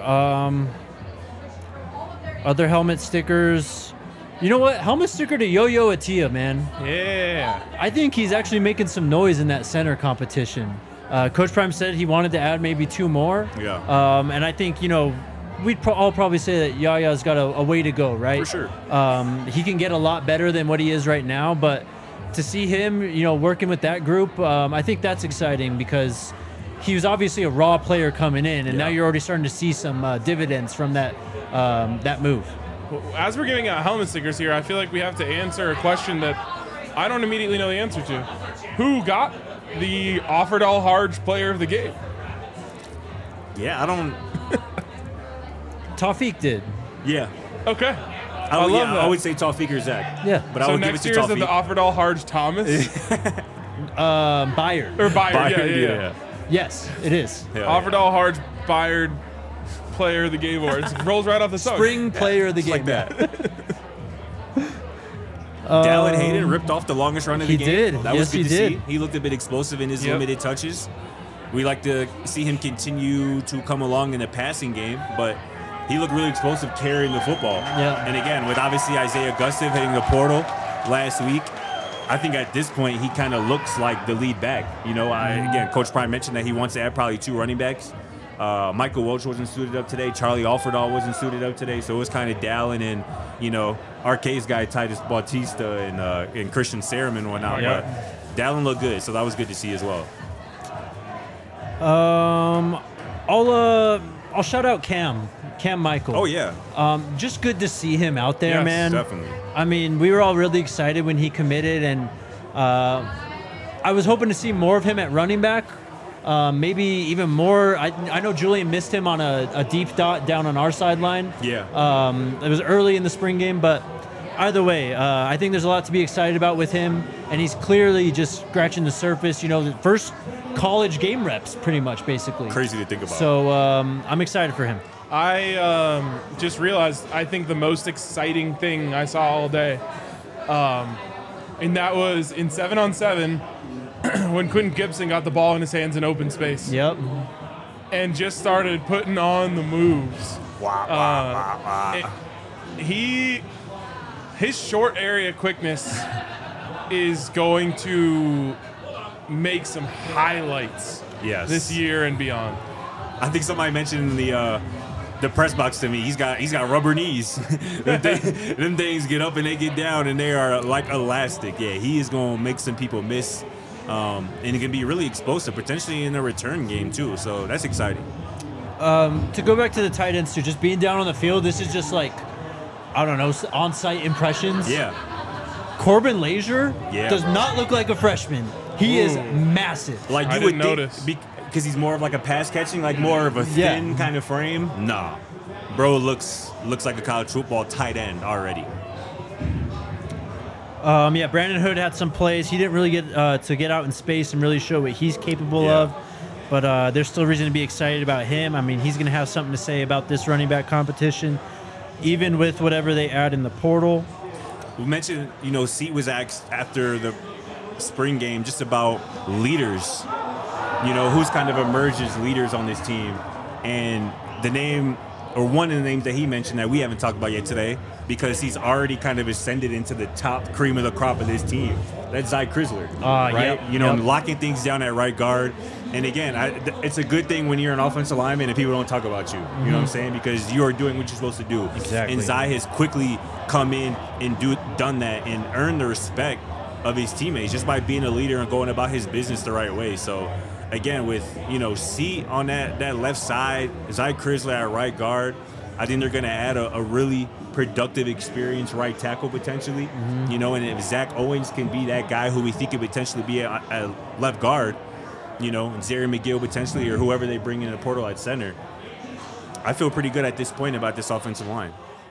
Other helmet stickers. You know what? Helmet sticker to Yo-Yo Atia, man. Yeah. I think he's actually making some noise in that center competition. Coach Prime said he wanted to add maybe 2 more. Yeah. And I think, we'd all probably say that Yaya's got a way to go, right? For sure. He can get a lot better than what he is right now, but to see him, working with that group, I think that's exciting because he was obviously a raw player coming in, and now you're already starting to see some dividends from that move. As we're giving out helmet stickers here, I feel like we have to answer a question that I don't immediately know the answer to. Who got the Offerdahl Harge Player of the Game? Yeah, I don't. Tawfiq did. Yeah. Okay. I love that. that. I would say Tawfiq or Zach. Yeah. But I So would give it next to year is it the Tawfiq. Offerdahl Harge Thomas? Bayard. Or Bayard, Bayard, yeah. Yes, it is. Yeah, Offerdahl Harge Bayard Player of the Game awards. Rolls right off the tongue. Spring player of the game. Like that. Dallin Hayden ripped off the longest run of the he game. did. That Yes, was good he to did. see. He looked a bit explosive in his Yep. limited touches. We like to see him continue to come along in the passing game, but he looked really explosive carrying the football. Yeah. And again, with obviously Isaiah Gustav hitting the portal last week, I think at this point he kind of looks like the lead back. Again, Coach Prime mentioned that he wants to add probably 2 running backs. Michael Welch wasn't suited up today. Charlie Offerdahl wasn't suited up today. So it was kind of Dallin and, Arcade's guy Titus Bautista and Christian Sermon and whatnot. Yeah. But Dallin looked good, so that was good to see as well. I'll shout out Cam Michael. Oh, yeah. Just good to see him out there, Yes, man. Definitely. I mean, we were all really excited when he committed, and I was hoping to see more of him at running back. Maybe even more. I know Julian missed him on a deep dot down on our sideline. Yeah. It was early in the spring game, but either way, I think there's a lot to be excited about with him, and he's clearly just scratching the surface. The first college game reps, pretty much, basically. Crazy to think about. So I'm excited for him. I just realized I think the most exciting thing I saw all day, and that was in 7-on-7 when Quentin Gibson got the ball in his hands in open space. Yep. And just started putting on the moves. His short area quickness is going to make some highlights Yes. this year and beyond. I think somebody mentioned in the press box to me. He's got rubber knees. them things get up and they get down, and they are like elastic. Yeah, he is going to make some people miss, and it can be really explosive, potentially in the return game too. So that's exciting. To go back to the tight ends too, just being down on the field, this is just like, I don't know, on-site impressions. Yeah, Corbin Lazier Yeah, does bro. not look like a freshman. He is massive. like I you would didn't notice. think because he's more of like a pass catching, like more of a Yeah. thin kind of frame. Nah, bro looks like a college football tight end already. Brandon Hood had some plays. He didn't really get to get out in space and really show what he's capable Yeah. of. But there's still reason to be excited about him. I mean, he's going to have something to say about this running back competition, even with whatever they add in the portal. We mentioned, Seat was asked after the spring game just about leaders, who's kind of emerged as leaders on this team. And the name, or one of the names that he mentioned that we haven't talked about yet today, because he's already kind of ascended into the top cream of the crop of this team. That's Zy Crisler, right? yep. Locking things down at right guard. And again, it's a good thing when you're an offensive lineman and people don't talk about you. You know what I'm saying? Because you are doing what you're supposed to do. Exactly. And Zy has quickly come in and done that and earned the respect of his teammates just by being a leader and going about his business the right way. So again, with C on that left side, Zy Crisler at right guard, I think they're going to add a really productive, experienced right tackle potentially. And if Zach Owens can be that guy who we think could potentially be a left guard, and Zary McGill potentially, or whoever they bring in the portal at center, I feel pretty good at this point about this offensive line.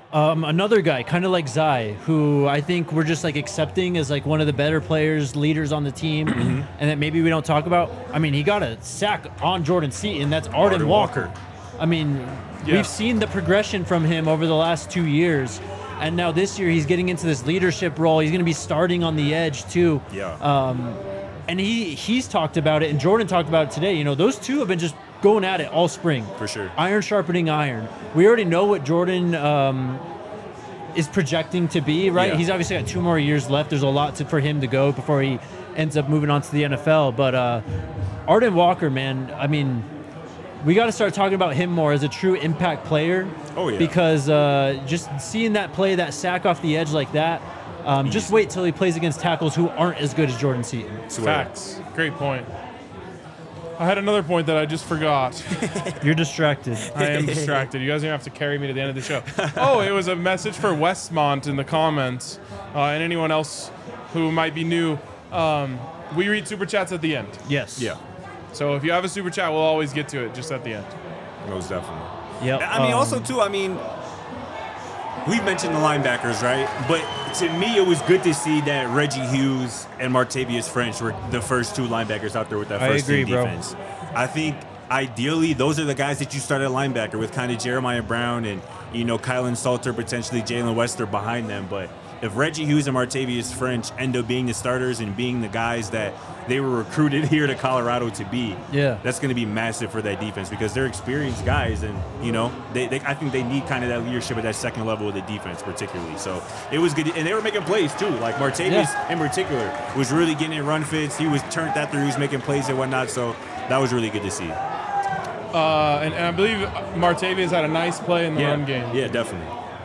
Another guy, kind of like Zai, who I think we're just like accepting as like one of the better players, leaders on the team, and that maybe we don't talk about. I mean, he got a sack on Jordan Seaton. That's Arden Walker. I mean, we've seen the progression from him over the last 2 years, and now this year he's getting into this leadership role. He's going to be starting on the edge too. Yeah. And he's talked about it, and Jordan talked about it today. You know, those two have been just going at it all spring. For sure. Iron sharpening iron. We already know what Jordan is projecting to be, right? Yeah. He's obviously got 2 more years left. There's a lot for him to go before he ends up moving on to the NFL. But Arden Walker, man, I mean, we got to start talking about him more as a true impact player. Oh, yeah. Because just seeing that play, that sack off the edge like that, just wait till he plays against tackles who aren't as good as Jordan Seaton. Facts. Great point. I had another point that I just forgot. You're distracted. I am distracted. You guys are going to have to carry me to the end of the show. Oh, it was a message for Westmont in the comments, and anyone else who might be new. We read Super Chats at the end. Yes. Yeah. So if you have a Super Chat, we'll always get to it just at the end. Most definitely. Yep. I mean, also, too, I mean, we've mentioned the linebackers, right? But to me, it was good to see that Reggie Hughes and Martavius French were the first 2 linebackers out there with that first team defense. I think ideally those are the guys that you start at linebacker with, kind of Jeremiah Brown and, you know, Kylan Salter, potentially Jalen Wester behind them. But if Reggie Hughes and Martavius French end up being the starters and being the guys that they were recruited here to Colorado to be, that's going to be massive for that defense because they're experienced guys, and you know, I think they need kind of that leadership at that second level of the defense, particularly. So it was good, and they were making plays too. Like Martavius in particular was really getting in run fits. He was turned that through. He was making plays and whatnot. So that was really good to see. And I believe Martavius had a nice play in the run game. Yeah, definitely.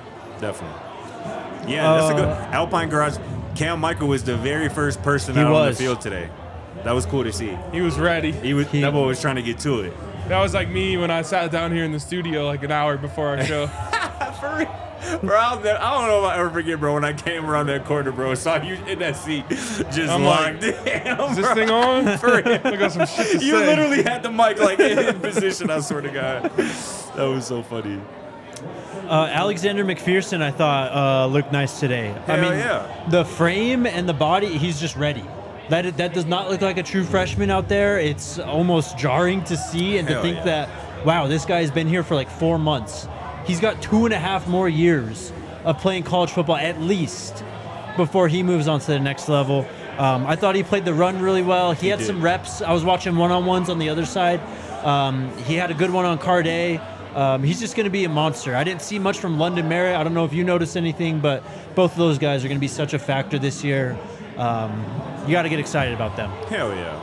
Yeah, that's a good Alpine Garage. Cam Michael was the very first person out on the field today. That was cool to see. He was ready. That boy was trying to get to it. That was like me when I sat down here in the studio like an hour before our show. For real. Bro, I don't know if I'll ever forget, bro, when I came around that corner, bro, saw you in that seat just I'm locked like, in. Is this thing on? For real. I got some shit to You say. literally had the mic like in position, I swear to God. That was so funny. Alexander McPherson, I thought, looked nice today. The frame and the body, he's just ready. That does not look like a true freshman out there. It's almost jarring to see and to think that, wow, this guy's been here for like 4 months. He's got 2.5 more years of playing college football at least before he moves on to the next level. I thought he played the run really well. He had some reps. I was watching one-on-ones on the other side. He had a good one on Carday. He's just going to be a monster. I didn't see much from London Merritt. I don't know if you noticed anything, but both of those guys are going to be such a factor this year. You got to get excited about them. Hell yeah.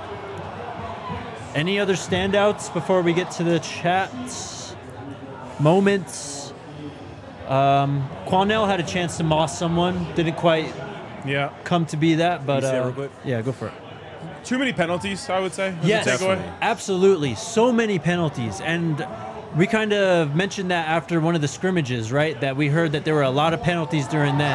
Any other standouts before we get to the chats? Moments? Quanell had a chance to moss someone. Didn't quite come to be that, but yeah, go for it. Too many penalties, I would say. Yes, absolutely. So many penalties. And we kind of mentioned that after one of the scrimmages, right? That we heard that there were a lot of penalties during then.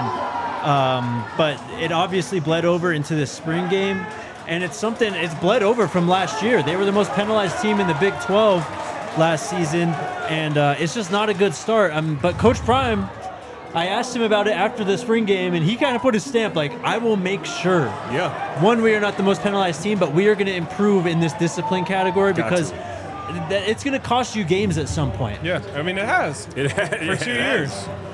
But it obviously bled over into the spring game. And it's bled over from last year. They were the most penalized team in the Big 12 last season. And it's just not a good start. But Coach Prime, I asked him about it after the spring game, and he kind of put his stamp like, I will make sure. Yeah. One, we are not the most penalized team, but we are going to improve in this discipline category because it's going to cost you games at some point. Yeah, I mean, it has. For 2 years.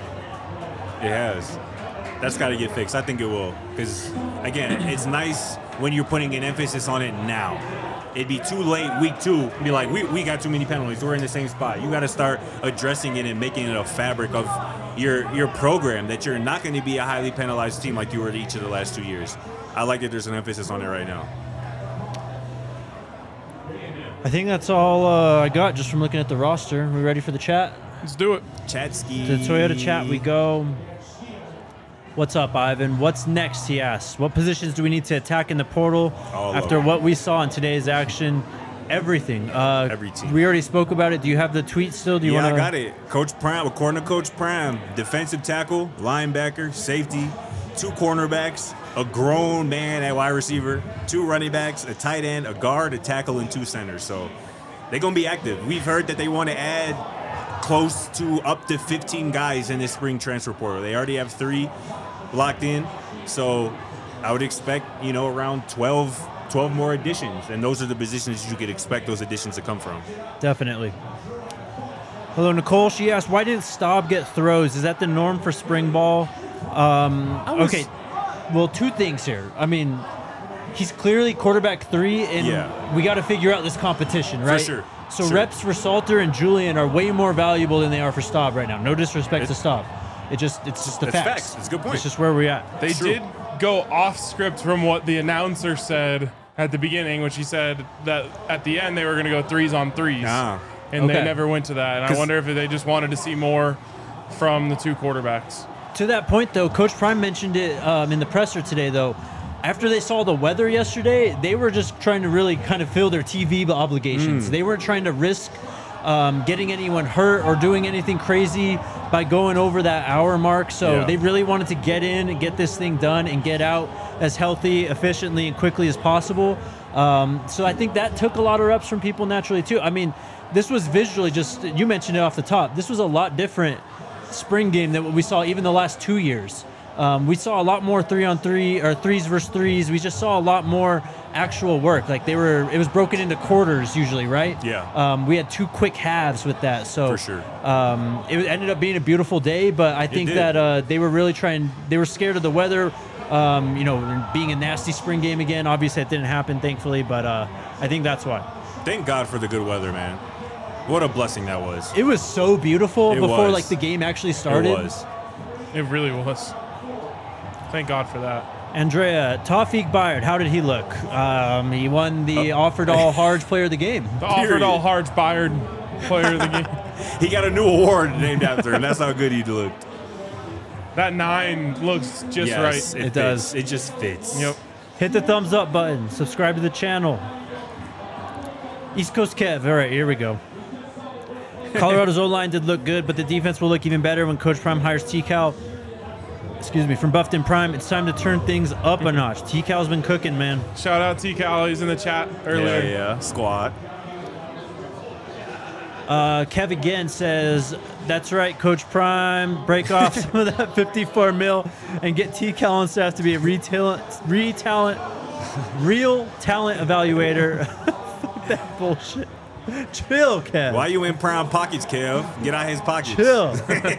It has. That's got to get fixed. I think it will. Because, again, it's nice when you're putting an emphasis on it now. It'd be too late week 2 to be like, we got too many penalties. We're in the same spot. You got to start addressing it and making it a fabric of your program, that you're not going to be a highly penalized team like you were each of the last 2 years. I like that there's an emphasis on it right now. I think that's all I got just from looking at the roster. We ready for the chat? Let's do it. Chatski. To the Toyota chat we go. What's up, Ivan? What's next, he asks. What positions do we need to attack in the portal after what we saw in today's action? Everything. Every team. We already spoke about it. Do you have the tweet still? Do you want I got it. Coach Prime, according to Coach Prime, defensive tackle, linebacker, safety, 2 cornerbacks, a grown man at wide receiver, 2 running backs, a tight end, a guard, a tackle, and 2 centers. So they're going to be active. We've heard that they want to add close to up to 15 guys in this spring transfer portal. They already have 3 locked in. So I would expect, around 12 more additions. And those are the positions you could expect those additions to come from. Definitely. Hello, Nicole. She asked, why didn't Staub get throws? Is that the norm for spring ball? Okay. Well, 2 things here. I mean, he's clearly quarterback 3, and we got to figure out this competition, right? For sure. So reps for Salter and Julian are way more valuable than they are for Staub right now. No disrespect to Staub. It's just the facts. It's a good point. It's just where we're at. They did go off script from what the announcer said at the beginning, which he said that at the end they were going to go 3s on 3s. And they never went to that. And I wonder if they just wanted to see more from the 2 quarterbacks. To that point, though, Coach Prime mentioned it in the presser today, though. After they saw the weather yesterday, they were just trying to really kind of fill their TV obligations. They weren't trying to risk getting anyone hurt or doing anything crazy by going over that hour mark. So they really wanted to get in and get this thing done and get out as healthy, efficiently, and quickly as possible. So I think that took a lot of reps from people naturally, too. I mean, this was visually just, you mentioned it off the top, this was a lot different spring game than what we saw even the last 2 years. We saw a lot more 3-on-3 or 3s versus 3s. We just saw a lot more actual work. Like it was broken into quarters usually, right? Yeah. We had 2 quick halves with that. So for sure. It ended up being a beautiful day, but I think that they were really they were scared of the weather, being a nasty spring game again. Obviously it didn't happen, thankfully, but I think that's why. Thank God for the good weather, man. What a blessing that was. It was so beautiful before like the game actually started. It was. It really was. Thank God for that. Andrea, Tawfiq Bayard, how did he look? He won the Offered All Hards Player of the Game. The Offered All Hards Bayard Player of the Game. He got a new award named after him. That's how good he looked. That 9 looks just right. It does. It just fits. Yep. Hit the thumbs up button. Subscribe to the channel. East Coast Kev. All right, here we go. Colorado's O-line did look good, but the defense will look even better when Coach Prime hires T-Cal. From Buffton Prime. It's time to turn things up a notch. T-Cal's been cooking, man. Shout out T-Cal. He's in the chat earlier. Yeah. Squad. Kev again says, that's right, Coach Prime. Break off some of that 54 mil and get T-Cal on staff to be a real talent evaluator. Fuck that bullshit. Chill, Kev. Why you in Prime pockets, Kev? Get out his pockets. Chill.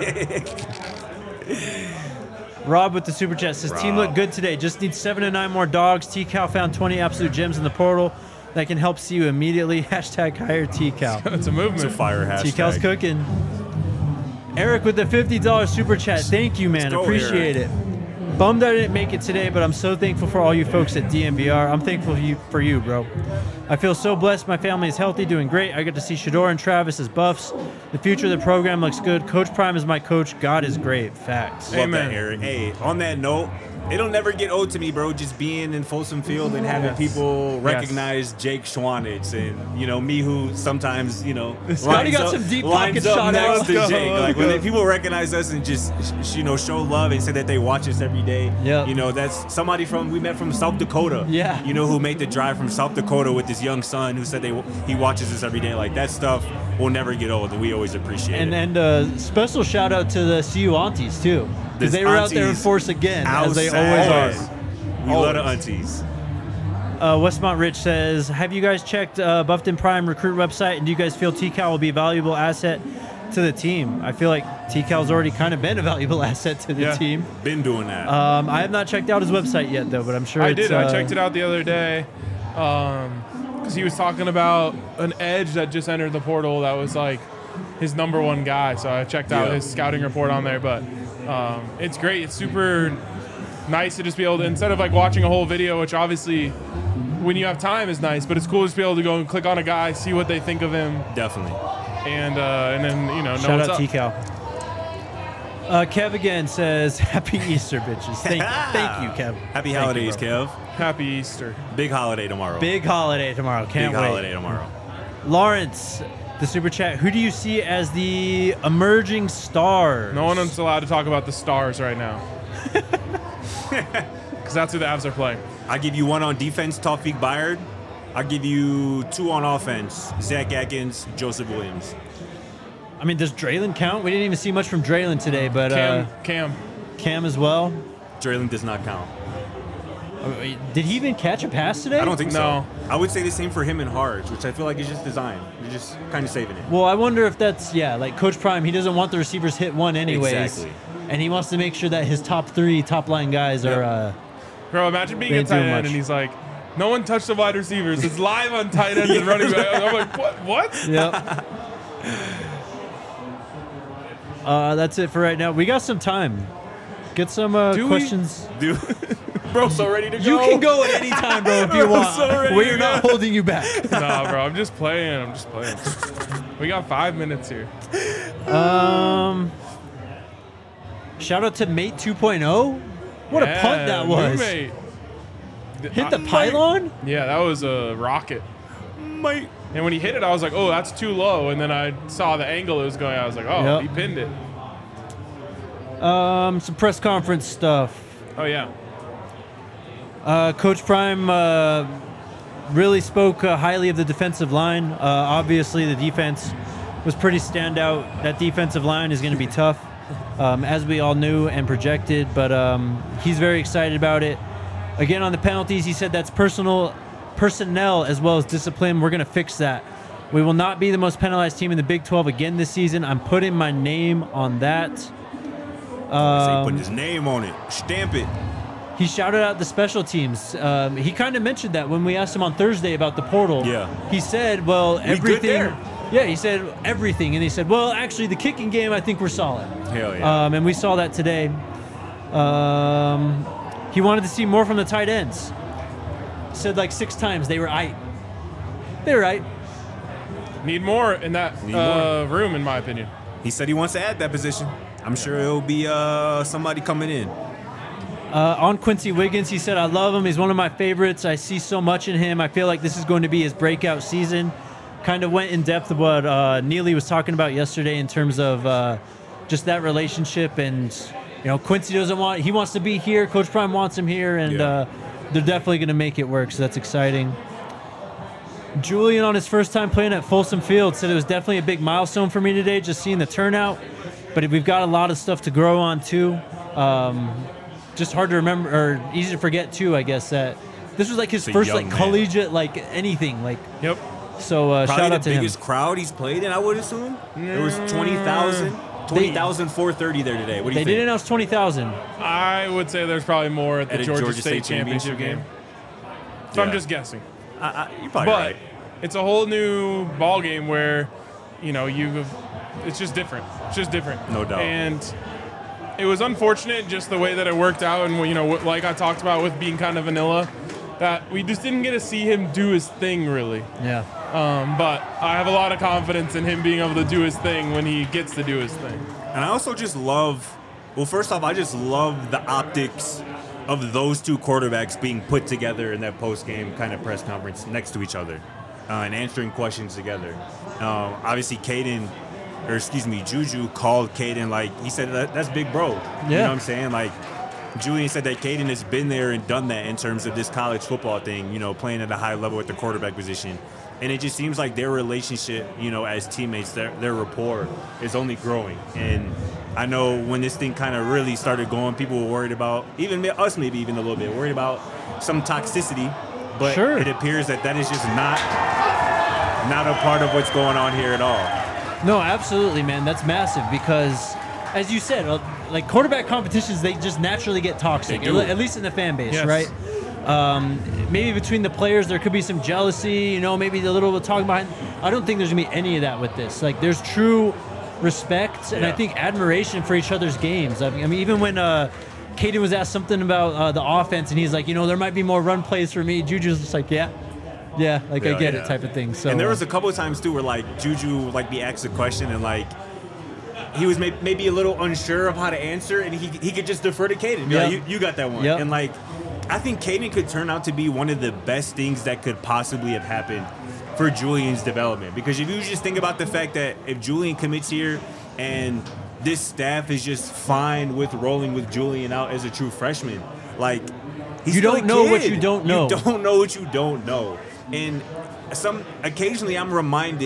Rob with the super chat says, team looked good today. Just need 7 to 9 more dogs. T-Cal found 20 absolute gems in the portal that can help see you immediately. Hashtag hire T-Cal. It's a movement. It's a fire hashtag. T-Cal's cooking. Eric with the $50 super chat. Thank you, man. Appreciate it. Bummed I didn't make it today, but I'm so thankful for all you folks at DNVR. I'm thankful for you, bro. I feel so blessed. My family is healthy, doing great. I get to see Shedeur and Travis as buffs. The future of the program looks good. Coach Prime is my coach. God is great. Facts. Love that, Eric. Hey, on that note, it'll never get old to me, bro, just being in Folsom Field and having people recognize Jake Schwanitz and, me who sometimes, Scotty got some deep pocket shot next to Jake. Like, when people recognize us and just, show love and say that they watch us every day, that's somebody we met from South Dakota, who made the drive from South Dakota with his young son who said he watches us every day. Like, that stuff will never get old, and we always appreciate it. And special shout out to the CU aunties, too. Because they were out there in force again, as they always are. We love the aunties. Westmont Rich says, have you guys checked Buffton Prime recruit website, and do you guys feel T-Cal will be a valuable asset to the team? I feel like T-Cal's already kind of been a valuable asset to the team. Been doing that. I have not checked out his website yet, though, but I'm sure I did. I checked it out the other day because he was talking about an edge that just entered the portal that was like his number 1 guy. So I checked out his scouting report on there, but it's great. It's super nice to just be able to, instead of like watching a whole video, which obviously when you have time is nice, but it's cool just to be able to go and click on a guy, see what they think of him. Definitely. And then, know shout what's out up. T-Cal. Kev again says, happy Easter, bitches. Thank you, Kev. Happy holidays, Kev. Happy Easter. Big holiday tomorrow. Big holiday tomorrow. Can't wait. Big holiday tomorrow. Lawrence, the super chat. Who do you see as the emerging stars? No one's allowed to talk about the stars right now. Because that's who the Avs are playing. I give you 1 on defense, Tawfiq Bayard. I give you 2 on offense, Zach Atkins, Joseph Williams. I mean, does Draylon count? We didn't even see much from Draylon today, but Cam as well. Draylon does not count. Did he even catch a pass today? I don't think No. so. I would say the same for him and Harge, which I feel like is just design. You're just kind of saving it. Well, I wonder if that's, like Coach Prime, he doesn't want the receivers hit one anyways. Exactly. And he wants to make sure that his top 3 top line guys are. Bro, imagine being They a ain't tight doing end much. and he's like, no one touched the wide receivers. It's live on tight ends and running back. I'm like, what? Yep. That's it for right now. We got some time. Get some Do we? questions. Dude, bro, so ready to go. You can go at any time, bro, if you I'm want. so ready We're to not go. holding you back. Nah, bro, I'm just playing. We got 5 minutes here. Shout out to Mate 2.0. What a punt that was. Roommate. Hit the pylon? Yeah, that was a rocket. Mate. And when he hit it, I was like, oh, that's too low. And then I saw the angle it was going. I was like, oh, Yep. he pinned it. Some press conference stuff. Oh, yeah. Coach Prime really spoke highly of the defensive line. Obviously, the defense was pretty standout. That defensive line is going to be tough, as we all knew and projected, but he's very excited about it. Again, on the penalties, he said that's personnel as well as discipline. We're going to fix that. We will not be the most penalized team in the Big 12 again this season. I'm putting my name on that. So he put his name on it. Stamp it. He shouted out the special teams. He kind of mentioned that when we asked him on Thursday about the portal. Yeah. He said, well, good everything. there. Yeah, he said everything. And he said, well, actually, the kicking game, I think we're solid. Hell yeah. And we saw that today. He wanted to see more from the tight ends. Said like 6 times they were aight. They were aight. Need more in that more. room, in my opinion. He said he wants to add that position. I'm sure it'll be somebody coming in. On Quincy Wiggins, he said, I love him. He's one of my favorites. I see so much in him. I feel like this is going to be his breakout season. Kind of went in depth of what Neely was talking about yesterday in terms of just that relationship. And, Quincy he wants to be here. Coach Prime wants him here. And they're definitely going to make it work. So that's exciting. Julian, on his first time playing at Folsom Field, said it was definitely a big milestone for me today, just seeing the turnout. But we've got a lot of stuff to grow on, too. Just hard to remember, or easy to forget, too, I guess, that this was like his first young man. collegiate, anything. Yep. So Probably shout out the to him. biggest crowd he's played in, I would assume. There was 20,000. 20,430 there today. What do you They think? did announce 20,000. I would say there's probably more at the Georgia State Championship game. So I'm Yeah. just guessing. You're probably But right. it's a whole new ball game where, it's just different. It's just different. No doubt. And it was unfortunate just the way that it worked out, and like I talked about with being kind of vanilla, that we just didn't get to see him do his thing really. Yeah. But I have a lot of confidence in him being able to do his thing when he gets to do his thing. And I also just love, first off, I just love the optics of those two quarterbacks being put together in that post-game kind of press conference next to each other and answering questions together. Obviously, Juju called Caden, he said, that's big bro. Yeah. You know what I'm saying? Julian said that Caden has been there and done that in terms of this college football thing, playing at a high level at the quarterback position. And it just seems like their relationship, as teammates, their rapport is only growing. And I know when this thing kind of really started going, people were worried about, even us maybe even a little bit, worried about some toxicity. But Sure. It appears that is just not a part of what's going on here at all. No, absolutely, man. That's massive because, as you said, quarterback competitions, they just naturally get toxic, They do. at least in the fan base, Yes. right? Maybe between the players, there could be some jealousy, maybe a little bit of talking behind. I don't think there's going to be any of that with this. There's true respect and I Yeah. think admiration for each other's games. I mean, even when Caden was asked something about the offense and he's like, there might be more run plays for me, Juju's just like, yeah, I get Yeah. it type of thing. So, And there was a couple of times too where Juju be asked a question and he was maybe a little unsure of how to answer and he could just defer to Caden. Yep. You got that one. Yep. And I think Caden could turn out to be one of the best things that could possibly have happened for Julian's development. Because if you just think about the fact that if Julian commits here and this staff is just fine with rolling with Julian out as a true freshman, he's You still don't a know what kid. you don't know. You don't know what you don't know. And occasionally I'm reminded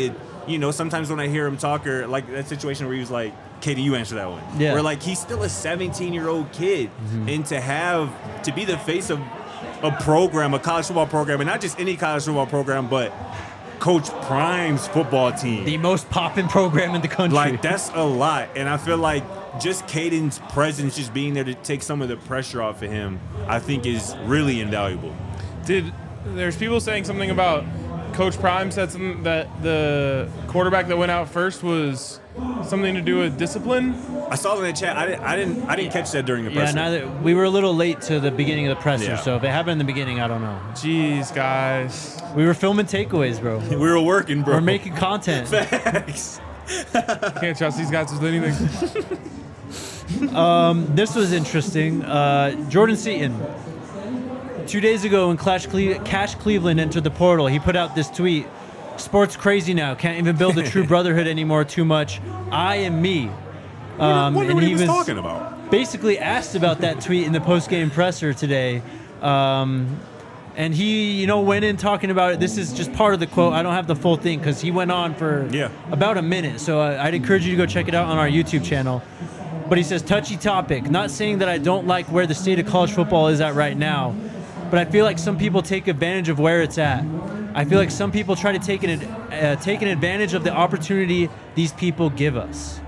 you know, sometimes when I hear him talk, or like that situation where he was like, Katie, you answer that one. Yeah. Where like he's still a 17-year-old kid, and to be the face of a program, a college football program, and not just any college football program, but Coach Prime's football team. The most poppin' program in the country. Like, that's a lot. And I feel like just Caden's presence, just being there to take some of the pressure off of him, I think is really invaluable. There's people saying something about Coach Prime said something that the quarterback that went out first was something to do with discipline. I saw it in the chat. I didn't catch that during the presser. neither. We were a little late to the beginning of the presser, Yeah. so if it happened in the beginning, I don't know. Jeez, guys. We were filming takeaways, bro. We were working, bro. We're making content. Facts. Can't trust these guys with anything. This was interesting. Jordan Seaton. 2 days ago, when Cash Cleveland entered the portal, he put out this tweet: "Sports crazy now. Can't even build a true brotherhood anymore. Too much. I am me." Wonder and what he he was was talking about. basically asked about that tweet in the post-game presser today. And he, went in talking about it. This is just part of the quote. I don't have the full thing because he went on for about a minute. So I'd encourage you to go check it out on our YouTube channel. But he says, touchy topic. Not saying that I don't like where the state of college football is at right now, but I feel like some people take advantage of where it's at. I feel like some people try to take an advantage of the opportunity these people give us.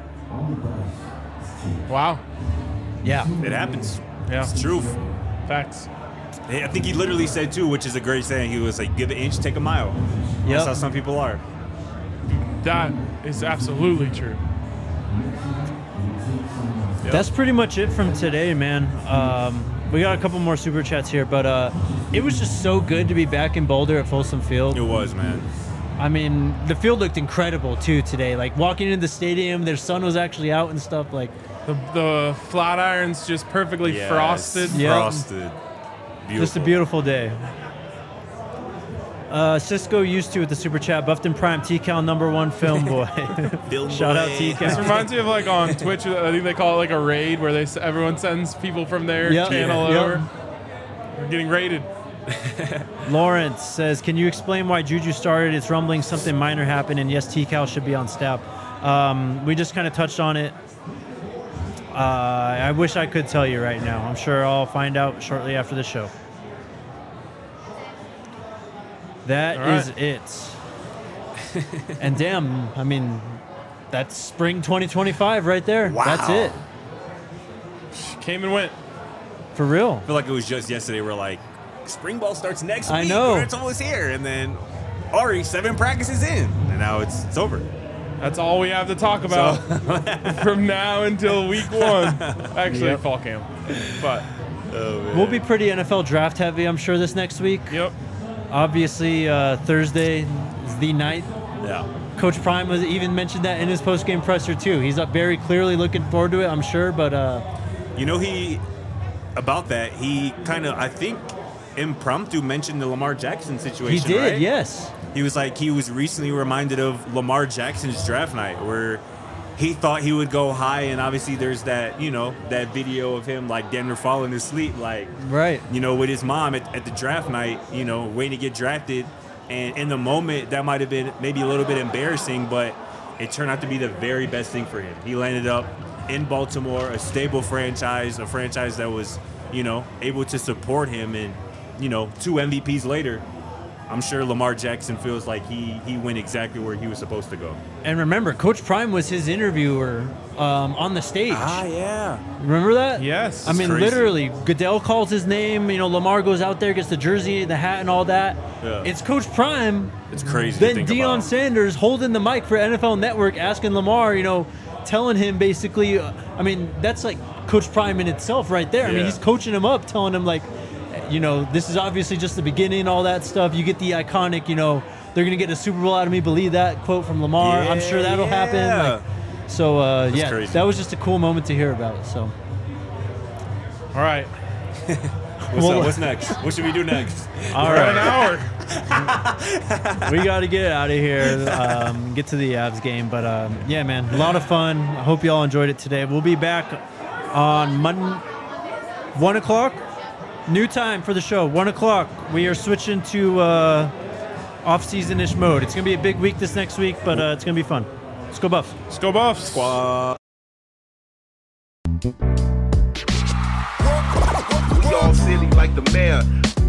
Wow. Yeah. It happens. Yeah. It's truth. Facts. I think he literally said, too, which is a great saying. He was like, give an inch, take a mile. Yep. That's how some people are. That is absolutely true. Yep. That's pretty much it from today, man. We got a couple more super chats here, but it was just so good to be back in Boulder at Folsom Field. It was, man. I mean, the field looked incredible too today. Like walking into the stadium, their sun was actually out and stuff. Like The flat irons just perfectly Yes. frosted. Yeah. Frosted. Beautiful. just a beautiful day. Cisco used to with the super chat. Buffton Prime, T-Cal #1 film boy. Film Shout out boy. This T-Cal. reminds me of like on Twitch. I think they call it like a raid where everyone sends people from their Yep. channel Yep. over. We're getting raided. Lawrence says, can you explain why Juju started? It's rumbling something minor happened, and yes, T-Cal should be on staff. We just kind of touched on it. I wish I could tell you right now. I'm sure I'll find out shortly after the show. That All right. is it. And damn, I mean, that's spring 2025 right there. Wow. That's it. Came and went. For real. I feel like it was just yesterday. We're like, spring ball starts next week. I know. It's almost here. And then, 7 practices in. And now it's over. That's all we have to talk about from now until week 1. Actually, Yep. fall camp. But, Oh, man. We'll be pretty NFL draft heavy, I'm sure, this next week. yep. Obviously, Thursday is the night. Yeah. Coach Prime was even mentioned that in his post-game presser too. He's up very clearly looking forward to it, I'm sure. But About that, he kind of, I think, impromptu mentioned the Lamar Jackson situation. he did, right? yes. He was like, he was recently reminded of Lamar Jackson's draft night where he thought he would go high, and obviously there's that, that video of him like damn near falling asleep, like, Right. with his mom at the draft night, waiting to get drafted. And in the moment, that might have been maybe a little bit embarrassing, but it turned out to be the very best thing for him. He landed up in Baltimore, a stable franchise, a franchise that was, able to support him. And, 2 MVPs later, I'm sure Lamar Jackson feels like he went exactly where he was supposed to go. And remember, Coach Prime was his interviewer on the stage. Yeah. Remember that? Yes. I mean, crazy. literally, Goodell calls his name. Lamar goes out there, gets the jersey, the hat, and all that. Yeah. It's Coach Prime. It's crazy to Then think Deion about. Sanders holding the mic for NFL Network, asking Lamar, telling him basically, that's like Coach Prime in itself right there. I mean, Yeah. he's coaching him up, telling him like, this is obviously just the beginning, all that stuff. You get the iconic, they're going to get a Super Bowl out of me. Believe that quote from Lamar. I'm sure that'll happen. Yeah. Like, so, crazy. that was just a cool moment to hear about. So, All right. What's up? What's next? What should we do next? all We're at an right. hour. We got to get out of here, get to the Avs game. But, yeah, man, a lot of fun. I hope you all enjoyed it today. We'll be back on Monday, 1 o'clock. New time for the show, 1 o'clock. We are switching to off-season-ish mode. It's going to be a big week this next week, but it's going to be fun. Let's go Buffs. Let's go Buffs. Squad. We all silly like the mayor.